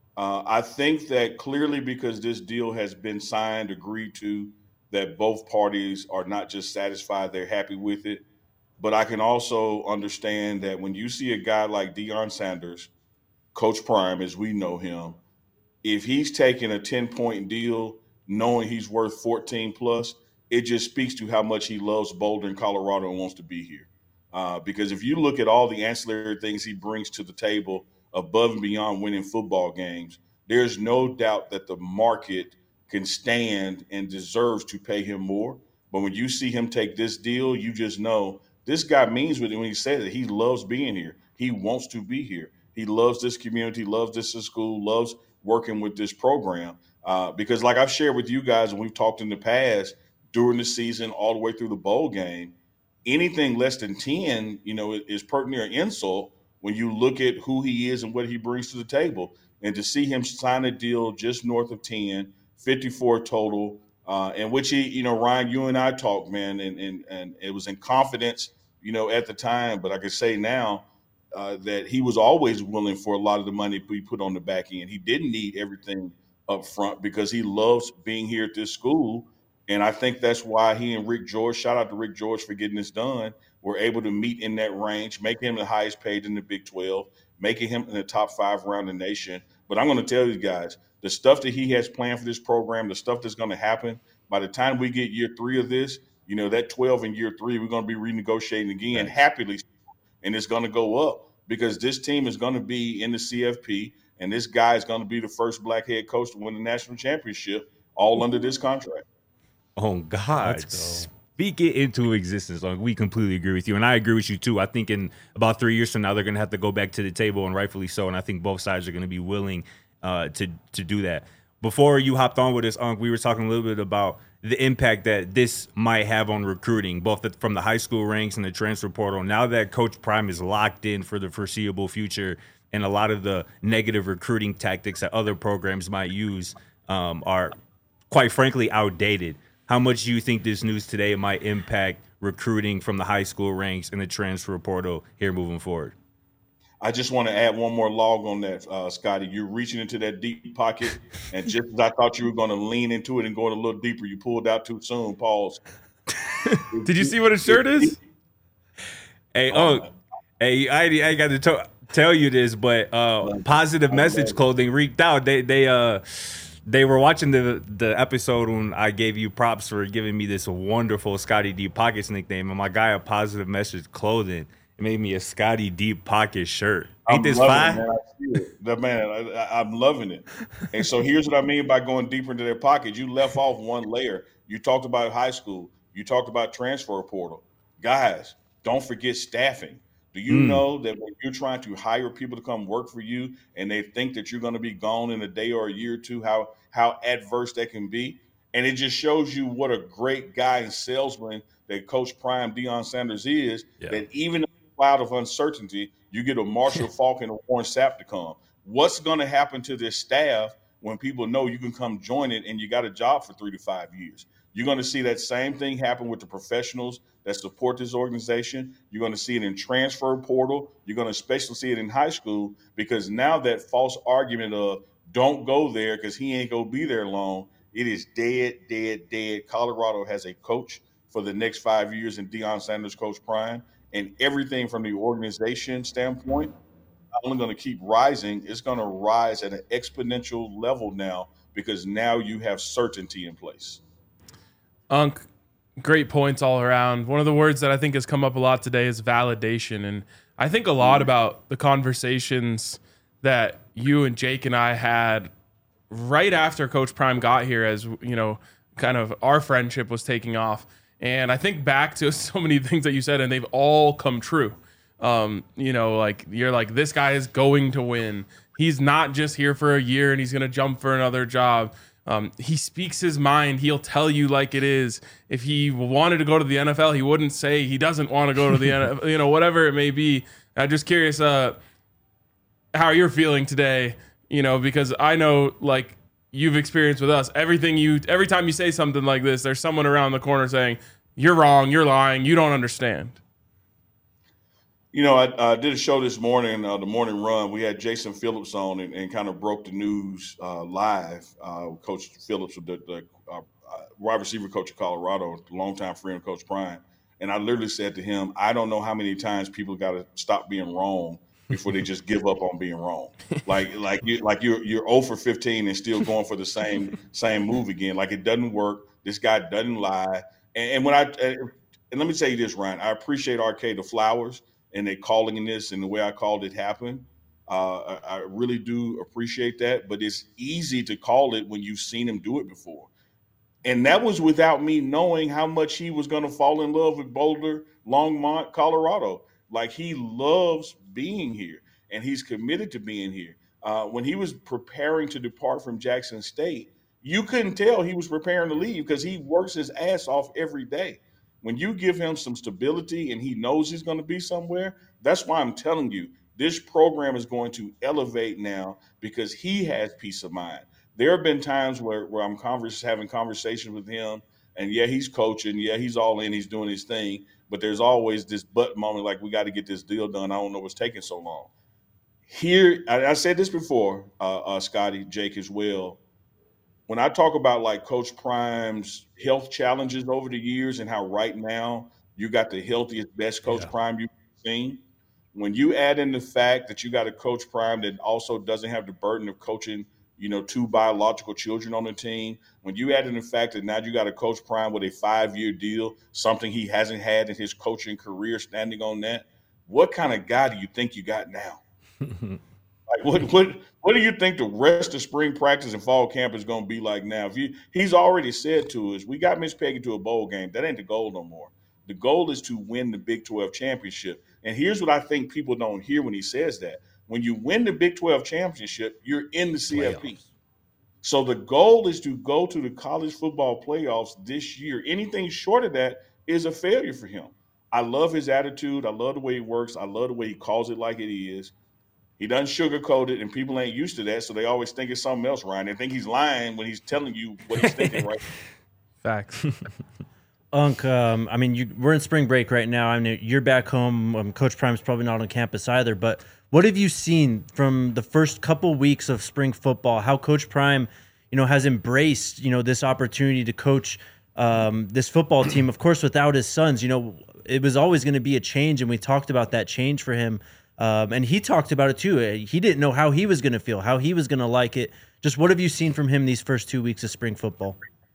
I think that clearly because this deal has been signed, agreed to, that both parties are not just satisfied, they're happy with it. But I can also understand that when you see a guy like Deion Sanders, Coach Prime, as we know him, if he's taking a 10-point deal, knowing he's worth 14 plus, it just speaks to how much he loves Boulder and Colorado and wants to be here. Because if you look at all the ancillary things he brings to the table above and beyond winning football games, there's no doubt that the market can stand and deserves to pay him more. But when you see him take this deal, you just know this guy means what when he says that he loves being here. He wants to be here. He loves this community, loves this school, loves working with this program. Because like I've shared with you guys, and we've talked in the past during the season all the way through the bowl game, anything less than 10, is pertinent or insult when you look at who he is and what he brings to the table. And to see him sign a deal just north of 10, 54 total, in which he, Ryan, you and I talked, man, and it was in confidence, at the time. But I can say now that he was always willing for a lot of the money to be put on the back end. He didn't need everything up front because he loves being here at this school. And I think that's why he and Rick George, shout out to Rick George for getting this done, were able to meet in that range, making him the highest paid in the Big 12, making him in the top 5 around the nation. But I'm going to tell you guys, the stuff that he has planned for this program, the stuff that's going to happen, by the time we get year 3 of this, that 12 in year 3, we're going to be renegotiating again, happily, and it's going to go up because this team is going to be in the CFP, and this guy is going to be the first black head coach to win the national championship, all under this contract. Oh, God. Speak it into existence. Like, we completely agree with you. And I agree with you, too. I think in about 3 years from now, they're going to have to go back to the table, and rightfully so. And I think both sides are going to be willing to do that. Before you hopped on with us, Unc, we were talking a little bit about the impact that this might have on recruiting, both from the high school ranks and the transfer portal. Now that Coach Prime is locked in for the foreseeable future, and a lot of the negative recruiting tactics that other programs might use are, quite frankly, outdated. How much do you think this news today might impact recruiting from the high school ranks and the transfer portal here moving forward? I just want to add one more log on that, Scotty. You're reaching into that deep pocket, and just as I thought you were going to lean into it and go in a little deeper, you pulled out too soon. Pause. Did you see what his shirt is? Hey, I got to tell you this, but Positive Message Clothing reeked out. They were watching the episode when I gave you props for giving me this wonderful Scotty Deep Pockets nickname, and my guy at Positive Message Clothing made me a Scotty Deep Pocket shirt. Ain't this fine? I'm loving it. And so here's what I mean by going deeper into their pocket. You left off one layer. You talked about high school. You talked about transfer portal. Guys, don't forget staffing. Do you know that when you're trying to hire people to come work for you and they think that you're going to be gone in a day or a year or two, how adverse that can be? And it just shows you what a great guy and salesman that Coach Prime Deion Sanders is, that even in a cloud of uncertainty, you get a Marshall Faulk and a Warren Sapp to come. What's going to happen to this staff when people know you can come join it and you got a job for 3 to 5 years? You're going to see that same thing happen with the professionals that support this organization. You're going to see it in transfer portal. You're going to especially see it in high school, because now that false argument of don't go there because he ain't going to be there long, it is dead, dead, dead. Colorado has a coach for the next 5 years in Deion Sanders, Coach Prime, and everything from the organization standpoint not only going to keep rising, it's going to rise at an exponential level now, because now you have certainty in place. Unc, great points all around. One of the words that I think has come up a lot today is validation. And I think a lot about the conversations that you and Jake and I had right after Coach Prime got here, as you know, kind of our friendship was taking off. And I think back to so many things that you said, and they've all come true. You know, like you're like, this guy is going to win. He's not just here for a year and he's going to jump for another job. He speaks his mind. He'll tell you like it is. If he wanted to go to the NFL, he wouldn't say he doesn't want to go to the NFL, you know, whatever it may be. I'm just curious how you're feeling today, you know, because I know, like you've experienced with us, every time you say something like this, there's someone around the corner saying, you're wrong, you're lying, you don't understand. You know, I did a show this morning, the morning run. We had Jason Phillips on and kind of broke the news live. Coach Phillips, the wide receiver coach of Colorado, longtime friend of Coach Prime. And I literally said to him, I don't know how many times people got to stop being wrong before they just give up on being wrong. You're 0 for 15 and still going for the same move again. Like, it doesn't work. This guy doesn't lie. And let me tell you this, Ryan, I appreciate Arcade of Flowers and they calling in this and the way I called it happen. I really do appreciate that, but it's easy to call it when you've seen him do it before. And that was without me knowing how much he was going to fall in love with Boulder, Longmont, Colorado. Like, he loves being here and he's committed to being here. When he was preparing to depart from Jackson State, you couldn't tell he was preparing to leave because he works his ass off every day. When you give him some stability and he knows he's going to be somewhere, that's why I'm telling you, this program is going to elevate now because he has peace of mind. There have been times where I'm having conversations with him, and yeah, he's coaching, yeah, he's all in, he's doing his thing, but there's always this but moment, like, we got to get this deal done. I don't know what's taking so long. Here, I said this before, Scotty, Jake as well. When I talk about like Coach Prime's health challenges over the years and how right now you got the healthiest, best Coach Prime you've seen, when you add in the fact that you got a Coach Prime that also doesn't have the burden of coaching, you know, 2 biological children on the team, when you add in the fact that now you got a Coach Prime with a 5-year deal, something he hasn't had in his coaching career, standing on that, what kind of guy do you think you got now? Like, what do you think the rest of spring practice and fall camp is going to be like now? He's already said to us, we got Miss Peggy to a bowl game. That ain't the goal no more. The goal is to win the Big 12 championship. And here's what I think people don't hear when he says that. When you win the Big 12 championship, you're in the CFP. Playoffs. So the goal is to go to the college football playoffs this year. Anything short of that is a failure for him. I love his attitude. I love the way he works. I love the way he calls it like it is. He doesn't sugarcoat it, and people ain't used to that, so they always think it's something else, Ryan. They think he's lying when he's telling you what he's thinking, right? Facts. Unc, I mean, we're in spring break right now. I mean, you're back home. Coach Prime's probably not on campus either, but what have you seen from the first couple weeks of spring football, how Coach Prime, you know, has embraced, you know, this opportunity to coach this football team, of course, without his sons? You know, it was always going to be a change, and we talked about that change for him. And he talked about it too. He didn't know how he was going to feel, how he was going to like it. Just what have you seen from him these first 2 weeks of spring football?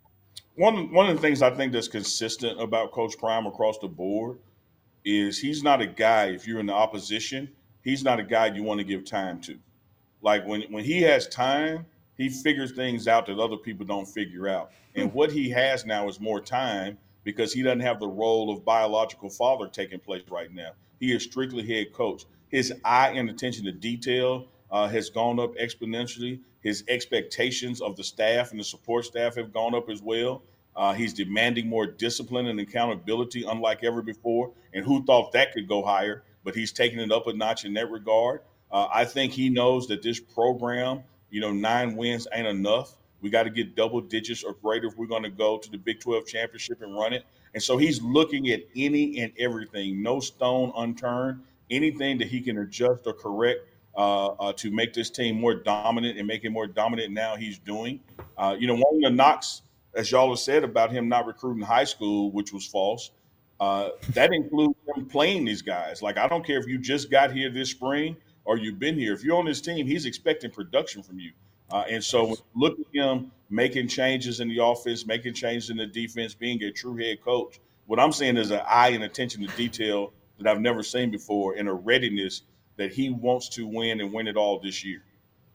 One of the things I think that's consistent about Coach Prime across the board is he's not a guy, if you're in the opposition, he's not a guy you want to give time to. Like when he has time, he figures things out that other people don't figure out. And what he has now is more time because he doesn't have the role of biological father taking place right now. He is strictly head coach. His eye and attention to detail has gone up exponentially. His expectations of the staff and the support staff have gone up as well. He's demanding more discipline and accountability, unlike ever before. And who thought that could go higher? But he's taking it up a notch in that regard. I think he knows that this program, 9 wins ain't enough. We got to get double digits or greater if we're going to go to the Big 12 championship and run it. And so he's looking at any and everything, no stone unturned, anything that he can adjust or correct to make this team more dominant and make it more dominant now he's doing. One of the knocks, as y'all have said about him not recruiting high school, which was false, that includes him playing these guys. Like, I don't care if you just got here this spring or you've been here. If you're on this team, he's expecting production from you. And so when you look at him making changes in the offense, making changes in the defense, being a true head coach, what I'm seeing is an eye and attention to detail that I've never seen before, and a readiness that he wants to win and win it all this year.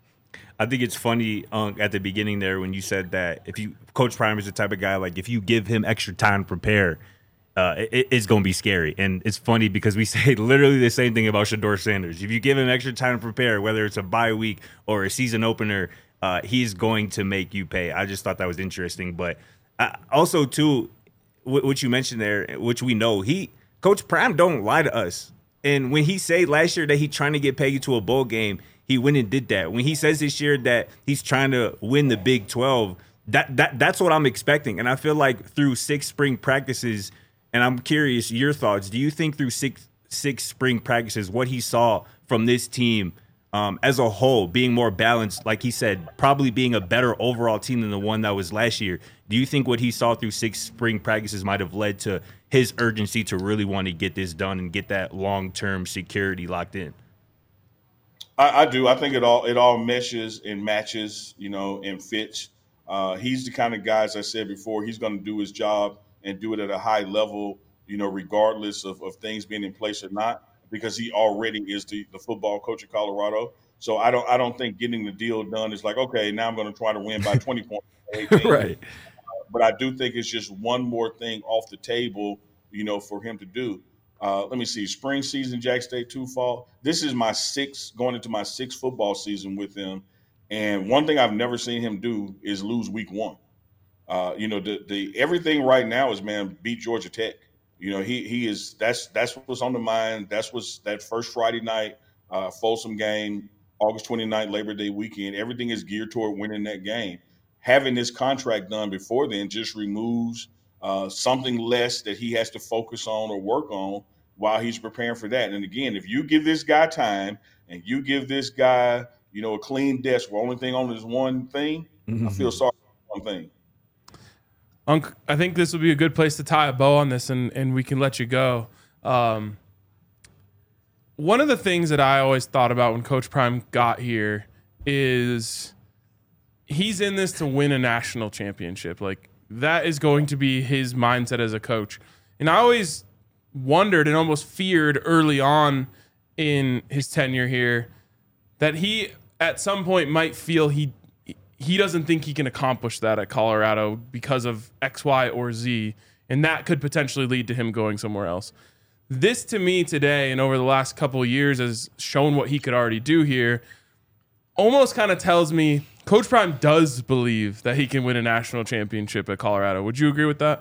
I think it's funny at the beginning there when you said that Coach Prime is the type of guy, like, if you give him extra time to prepare, it's going to be scary. And it's funny because we say literally the same thing about Shedeur Sanders. If you give him extra time to prepare, whether it's a bye week or a season opener, he's going to make you pay. I just thought that was interesting. But also, too, what you mentioned there, which we know, Coach Prime don't lie to us. And when he said last year that he's trying to get Peggy to a bowl game, he went and did that. When he says this year that he's trying to win the Big 12, that's what I'm expecting. And I feel like through 6 spring practices, and I'm curious your thoughts, do you think through six spring practices, what he saw from this team as a whole, being more balanced, like he said, probably being a better overall team than the one that was last year, do you think what he saw through 6 spring practices might have led to his urgency to really want to get this done and get that long-term security locked in? I do. I think it all meshes and matches, and fits. He's the kind of guy, as I said before, he's going to do his job and do it at a high level, regardless of things being in place or not, because he already is the football coach of Colorado. So I don't think getting the deal done is like, okay, now I'm going to try to win by 20 points. Right. But I do think it's just one more thing off the table, for him to do. Let me see. Spring season, Jack State 2 fall. This is going into my 6th football season with him. And one thing I've never seen him do is lose week 1. The everything right now is, man, beat Georgia Tech. He is, that's what's on the mind. That's what's that first Friday night, Folsom game, August 29th, Labor Day weekend. Everything is geared toward winning that game. Having this contract done before then just removes something less that he has to focus on or work on while he's preparing for that. And again, if you give this guy time and you give this guy, a clean desk where only thing on is one thing, I feel sorry for one thing. Unc, I think this would be a good place to tie a bow on this, and we can let you go. One of the things that I always thought about when Coach Prime got here is he's in this to win a national championship. Like, that is going to be his mindset as a coach. And I always wondered and almost feared early on in his tenure here that he at some point might feel he doesn't think he can accomplish that at Colorado because of X, Y, or Z, and that could potentially lead to him going somewhere else. This, to me, today and over the last couple of years has shown what he could already do here. Almost kind of tells me Coach Prime does believe that he can win a national championship at Colorado. Would you agree with that?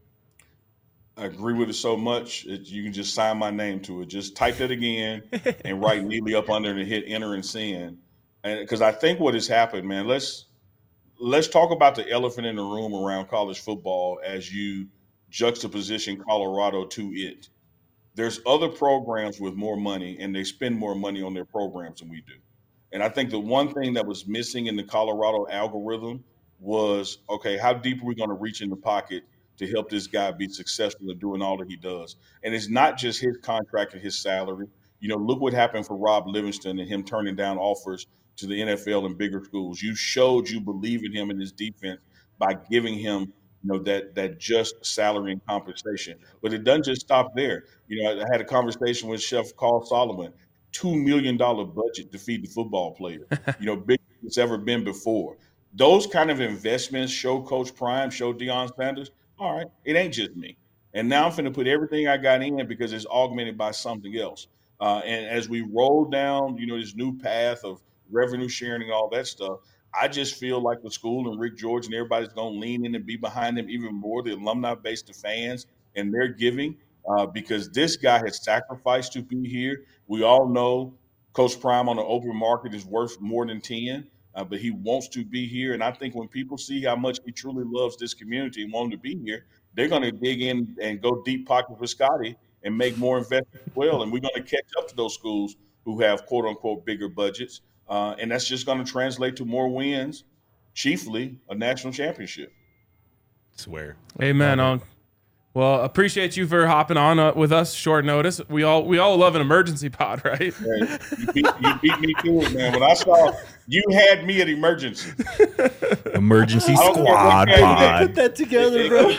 I agree with it so much you can just sign my name to it. Just type that again and write neatly up under and hit enter and send. And because I think what has happened, man, let's talk about the elephant in the room around college football as you juxtaposition Colorado to it. There's other programs with more money, and they spend more money on their programs than we do. And I think the one thing that was missing in the Colorado algorithm was, okay, how deep are we going to reach in the pocket to help this guy be successful in doing all that he does? And it's not just his contract and his salary. Look what happened for Rob Livingston and him turning down offers to the NFL and bigger schools. You showed you believe in him and his defense by giving him, that just salary and compensation. But it doesn't just stop there. I had a conversation with Chef Carl Solomon. $2 million budget to feed the football player, bigger than it's ever been before. Those kind of investments show Coach Prime, show Deion Sanders, all right, it ain't just me. And now I'm going to put everything I got in because it's augmented by something else. And as we roll down, this new path of revenue sharing and all that stuff, I just feel like the school and Rick George and everybody's going to lean in and be behind them even more, the alumni base, the fans, and they're giving because this guy has sacrificed to be here. We all know Coach Prime on the open market is worth more than 10, but he wants to be here. And I think when people see how much he truly loves this community and want him to be here, they're going to dig in and go deep pocket with Scotty and make more investments as well. And we're going to catch up to those schools who have, quote unquote, bigger budgets. And that's just going to translate to more wins, chiefly a national championship. Swear. Amen. Well, appreciate you for hopping on with us short notice. We all love an emergency pod, right? Hey, you beat me to it, man. When I saw you had me at emergency. Emergency squad pod. Put that together, bro.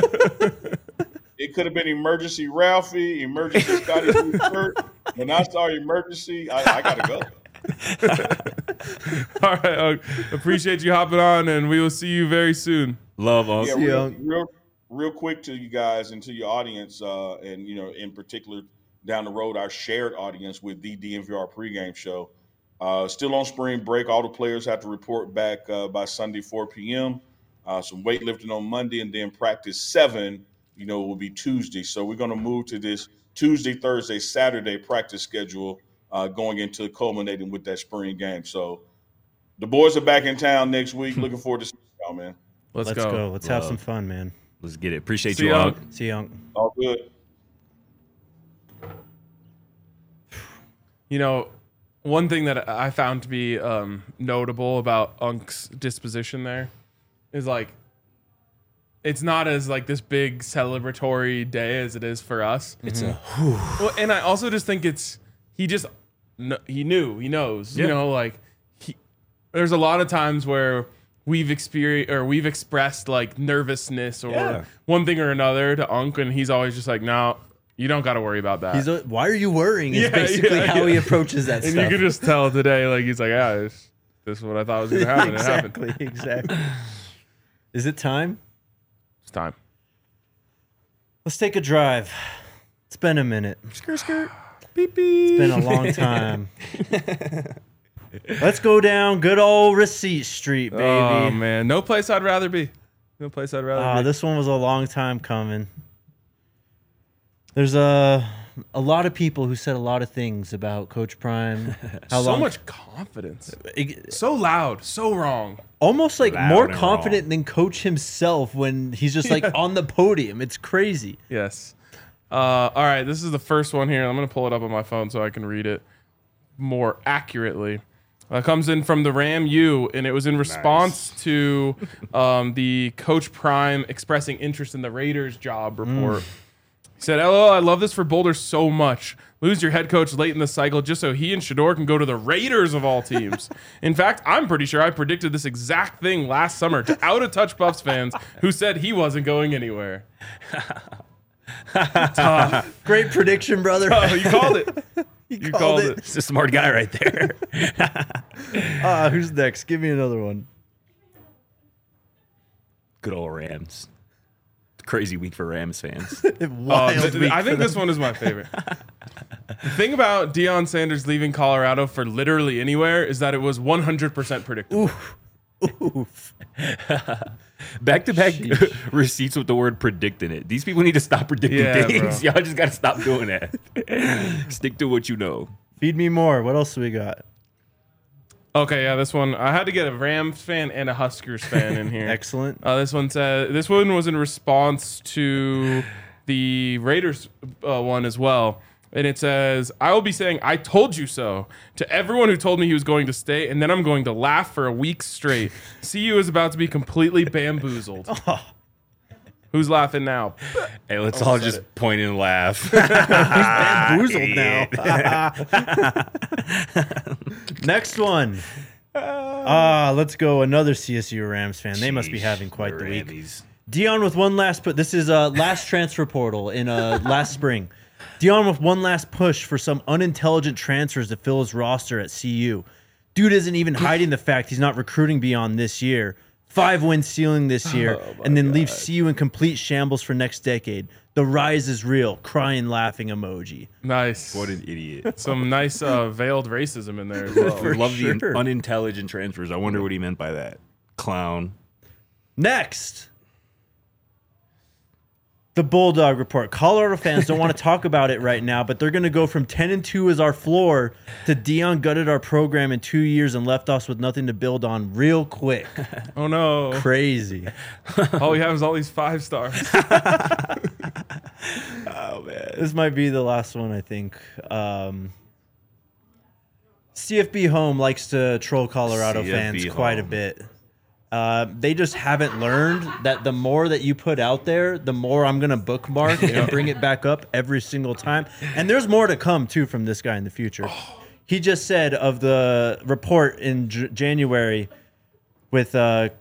It could have been emergency Ralphie, emergency Scotty Burt. When I saw emergency, I got to go. All right, appreciate you hopping on, and we will see you very soon. Love, Yeah, real quick to you guys and to your audience, and in particular down the road, our shared audience with the DNVR pregame show. Still on spring break. All the players have to report back by Sunday 4 p.m. Some weightlifting on Monday, and then practice 7. Will be Tuesday. So we're going to move to this Tuesday, Thursday, Saturday practice schedule. Going into culminating with that spring game. So the boys are back in town next week. Looking forward to seeing y'all, man. Let's go. Let's have some fun, man. Let's get it. Appreciate See you, Unc. See you, Unc. All good. One thing that I found to be notable about Unc's disposition there is it's not as this big celebratory day as it is for us. It's Well, and I also just think he knows, there's a lot of times where we've expressed nervousness or one thing or another to Unc, and he's always just no, you don't got to worry about that. Why are you worrying? Is basically how he approaches that and stuff. you could just tell today, he's this is what I thought was going to happen. Exactly, It happened. exactly. Is it time? It's time. Let's take a drive. It's been a minute. Skirt. Beep, beep. It's been a long time. Let's go down good old Receipt Street, baby. Oh, man. No place I'd rather be. No place I'd rather be. This one was a long time coming. There's a lot of people who said a lot of things about Coach Prime. Much confidence. So loud. So wrong. Almost Loud more and confident wrong. than Coach himself when he's just on the podium. It's crazy. Yes. All right. This is the first one here. I'm going to pull it up on my phone so I can read it more accurately. Comes in from the Ram U, and it was in response to the Coach Prime expressing interest in the Raiders job report. He said, "LOL, I love this for Boulder so much. Lose your head coach late in the cycle just so he and Shedeur can go to the Raiders of all teams. In fact, I'm pretty sure I predicted this exact thing last summer to out-of-touch Buffs fans who said he wasn't going anywhere." Tough. Great prediction, brother. Oh, you called it. You called it. It's a smart guy right there. Who's next? Give me another one. Good old Rams. Crazy week for Rams fans. Wild week I think for this one is my favorite. The thing about Deion Sanders leaving Colorado for literally anywhere is that it was 100% predictable. Oof. Back-to-back receipts with the word predict in it. These people need to stop predicting things. Bro. Y'all just got to stop doing that. Stick to what you know. Feed me more. What else do we got? Okay, yeah, this one. I had to get a Rams fan and a Huskers fan in here. Excellent. This one was in response to the Raiders one as well. And it says, "I will be saying, 'I told you so' to everyone who told me he was going to stay, and then I'm going to laugh for a week straight. CU is about to be completely bamboozled." Who's laughing now? Hey, let's all just point and laugh. Bamboozled now. Next one. Let's go. Another CSU Rams fan. They must be having quite the week. Rammies. Dion with one last put. This is last transfer portal in last spring. Dion with one last push for some unintelligent transfers to fill his roster at CU. Dude isn't even hiding the fact he's not recruiting beyond this year. 5-win ceiling this year, and then leaves CU in complete shambles for next decade. The rise is real. Crying, laughing emoji. Nice. What an idiot. Some nice veiled racism in there as well. For Love sure. the unintelligent transfers. I wonder what he meant by that. Clown. Next, the Bulldog Report. Colorado fans don't want to talk about it right now, but they're going to go from 10-2 as our floor to Dion gutted our program in 2 years and left us with nothing to build on real quick. Oh no. Crazy. All we have is all these 5 stars. Oh, man. This might be the last one, I think. CFB Home likes to troll Colorado CFB fans quite a Home. bit. They just haven't learned that the more that you put out there, the more I'm going to bookmark and bring it back up every single time. And there's more to come, too, from this guy in the future. He just said of the report in January with the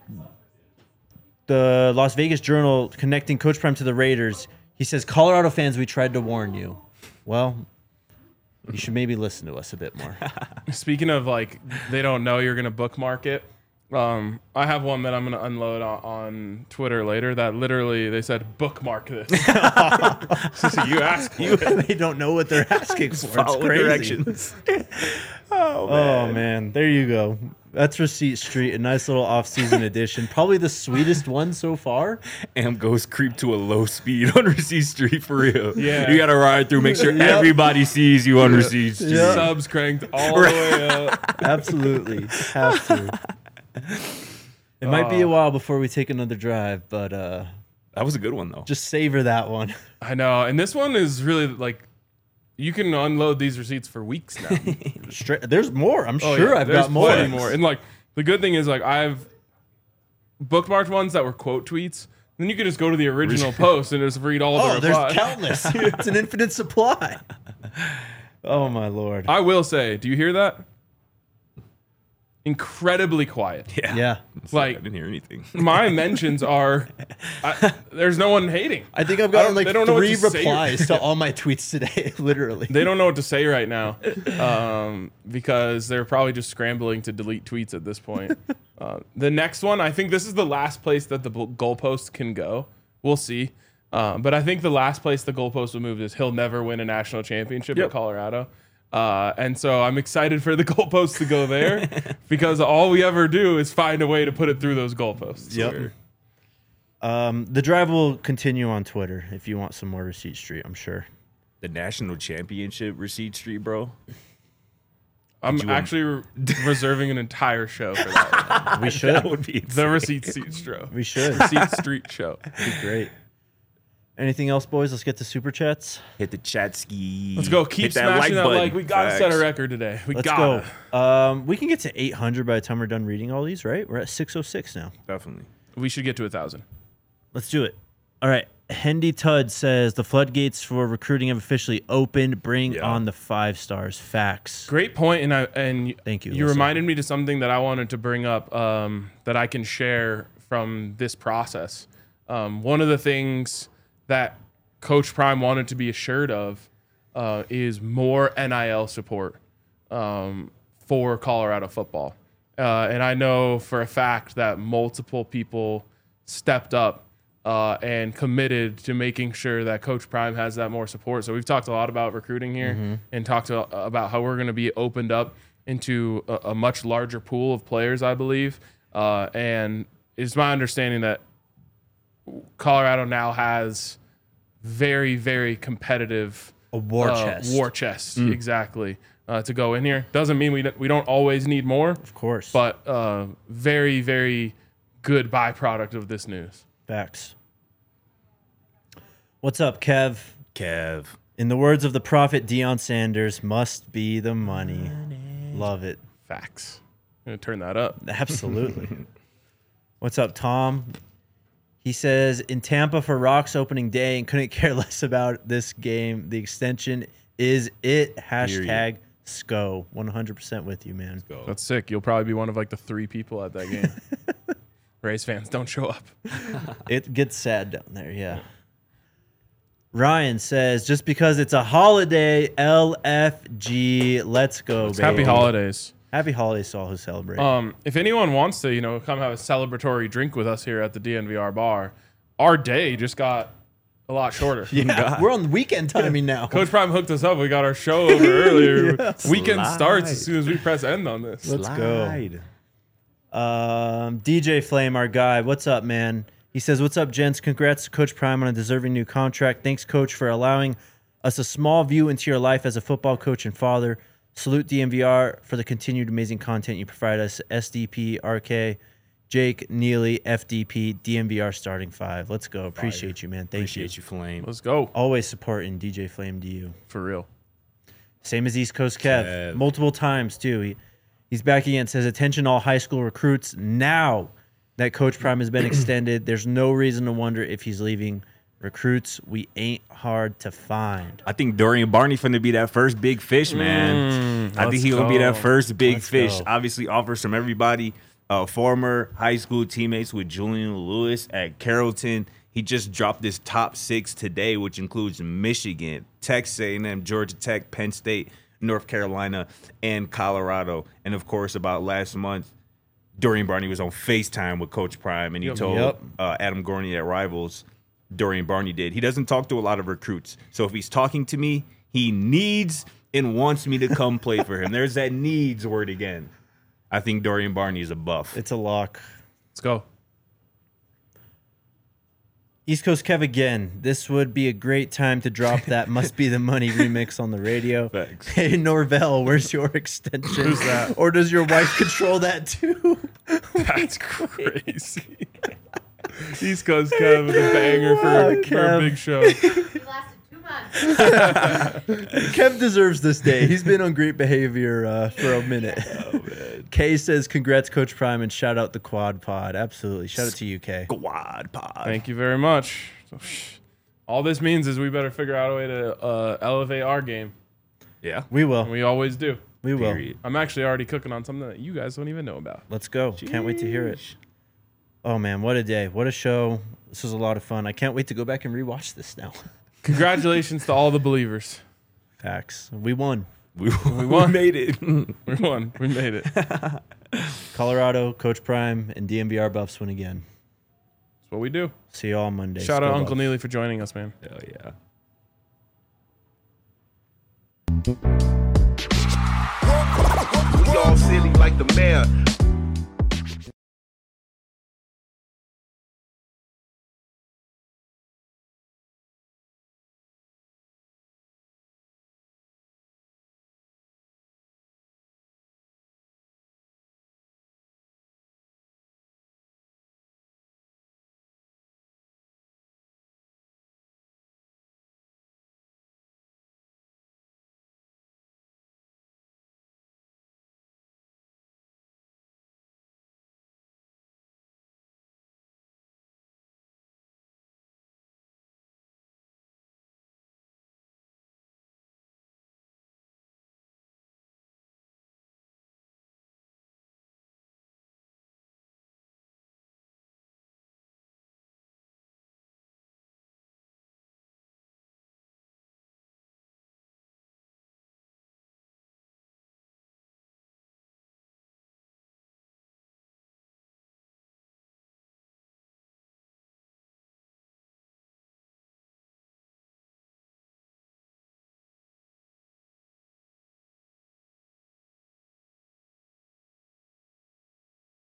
Las Vegas Journal connecting Coach Prime to the Raiders, he says, Colorado fans, we tried to warn you. Well, you should maybe listen to us a bit more. Speaking of like, they don't know you're going to bookmark it. I have one that I'm going to unload on Twitter later that literally they said bookmark this. So you ask for it. They don't know what they're asking for. It's Follow crazy. directions. Oh, man. There you go. That's Receipt Street, a nice little off-season edition. Probably the sweetest one so far. Amp goes creep to a low speed on Receipt Street for real. Yeah. You got to ride through, make sure Yep. everybody sees you on Receipt Street. Yep. Subs cranked all the way up. Absolutely. Have to. It might be a while before we take another drive, but That was a good one, though. just savor that one. I know. And this one is really like, you can unload these receipts for weeks now. There's more. I'm Oh, sure yeah. I've There's got more. plenty more. And like, the good thing is like, I've bookmarked ones that were quote tweets. Then you can just go to the original post and just read all Oh, the there's replies. countless. It's an infinite supply. Oh, my Lord. I will say, do you hear that? Incredibly quiet. Yeah. Like, I didn't hear anything. my mentions are, there's no one hating. I think I've gotten like they don't know what 3 to say. replies to all my tweets today, literally. They don't know what to say right now because they're probably just scrambling to delete tweets at this point. The next one, I think this is the last place that the goalpost can go. We'll see. But I think the last place the goalpost will move is he'll never win a national championship at Colorado. And so I'm excited for the goalposts to go there because all we ever do is find a way to put it through those goalposts. Yep. The drive will continue on Twitter if you want some more Receipt Street, I'm sure. The national championship Receipt Street, bro. I'm actually reserving an entire show for that one. We should. That would be The insane. Receipt Street show. We should. Receipt Street show. Be great. Anything else, boys? Let's get to Super Chats. Hit the chat ski. Let's go. Keep Hit smashing that button. like. We gotta set a Facts. record today. We Let's gotta. go. We can get to 800 by the time we're done reading all these, right? We're at 606 now. Definitely. We should get to 1,000. Let's do it. All right. Hendy Tud says the floodgates for recruiting have officially opened. Bring Yeah. on the 5 stars. Facts. Great point, and Thank you, You Alyssa. reminded me to something that I wanted to bring up that I can share from this process. One of the things that Coach Prime wanted to be assured of is more NIL support for Colorado football. And I know for a fact that multiple people stepped up and committed to making sure that Coach Prime has that more support. So we've talked a lot about recruiting here and talked about how we're going to be opened up into a much larger pool of players, I believe. And it's my understanding that Colorado now has very, very competitive A war chest. War chest, exactly. To go in here doesn't mean we don't always need more, Of course. but very, very good byproduct of this news. Facts. What's up, Kev? Kev. In the words of the prophet Deion Sanders, must be the money. Love it. Facts. I'm gonna turn that up. Absolutely. What's up, Tom? He says, in Tampa for Rocks opening day and couldn't care less about this game. The extension is it. Hashtag SCO. 100% with you, man. Go. That's sick. You'll probably be one of like the 3 people at that game. Rays fans, don't show up. It gets sad down there, yeah. Ryan says, just because it's a holiday, LFG, let's go, baby. Happy holidays. Happy holidays to all who celebrate. If anyone wants to, come have a celebratory drink with us here at the DNVR bar, our day just got a lot shorter. Yeah, we're on weekend timing now. Coach Prime hooked us up. We got our show over earlier. Yes. Weekend starts as soon as we press end on this. Let's go. DJ Flame, our guy. What's up, man? He says, what's up, gents? Congrats to Coach Prime on a deserving new contract. Thanks, Coach, for allowing us a small view into your life as a football coach and father. Salute DNVR for the continued amazing content you provide us. SDP, RK, Jake, Neely, FDP, DNVR starting 5. Let's go. Appreciate you, man. Thank you. Appreciate you, Flame. Let's go. Always supporting DJ Flame DU. For real. Same as East Coast Kev. Multiple times, too. He's back again. Says, attention all high school recruits. Now that Coach Prime has been extended, there's no reason to wonder if he's leaving. Recruits, we ain't hard to find. I think Dorian Barney finna be that first big fish, man. I think he's gonna be that first big fish. Go. Obviously, offers from everybody. Former high school teammates with Julian Lewis at Carrollton. He just dropped his top 6 today, which includes Michigan, Texas A&M, Georgia Tech, Penn State, North Carolina, and Colorado. And of course, about last month, Dorian Barney was on FaceTime with Coach Prime, and he told Adam Gorney at Rivals, Dorian Barney did. He doesn't talk to a lot of recruits. So if he's talking to me, he needs and wants me to come play for him. There's that needs word again. I think Dorian Barney is a buff. It's a lock. Let's go. East Coast Kev again. This would be a great time to drop that Must Be the Money remix on the radio. Thanks. Hey, Norvell, where's your extension? Who's that? Or does your wife control that too? That's crazy. East Coast Kev with a banger for a big show. It lasted 2 months. Kev deserves this day. He's been on great behavior for a minute. Oh, man. Kay says, congrats, Coach Prime, and shout out the Quad Pod. Absolutely. Shout out to you, Kay. Quad Pod. Thank you very much. All this means is we better figure out a way to elevate our game. Yeah. We will. And we always do. We will. Period. I'm actually already cooking on something that you guys don't even know about. Let's go. Can't wait to hear it. Oh, man. What a day. What a show. This was a lot of fun. I can't wait to go back and rewatch this now. Congratulations to all the believers. Facts. We won. We won. Made it. We won. We made it. Colorado, Coach Prime, and DNVR Buffs win again. That's what we do. See you all Monday. Shout out Go Uncle Buffs. Neely for joining us, man. Hell yeah. We all silly like the mayor.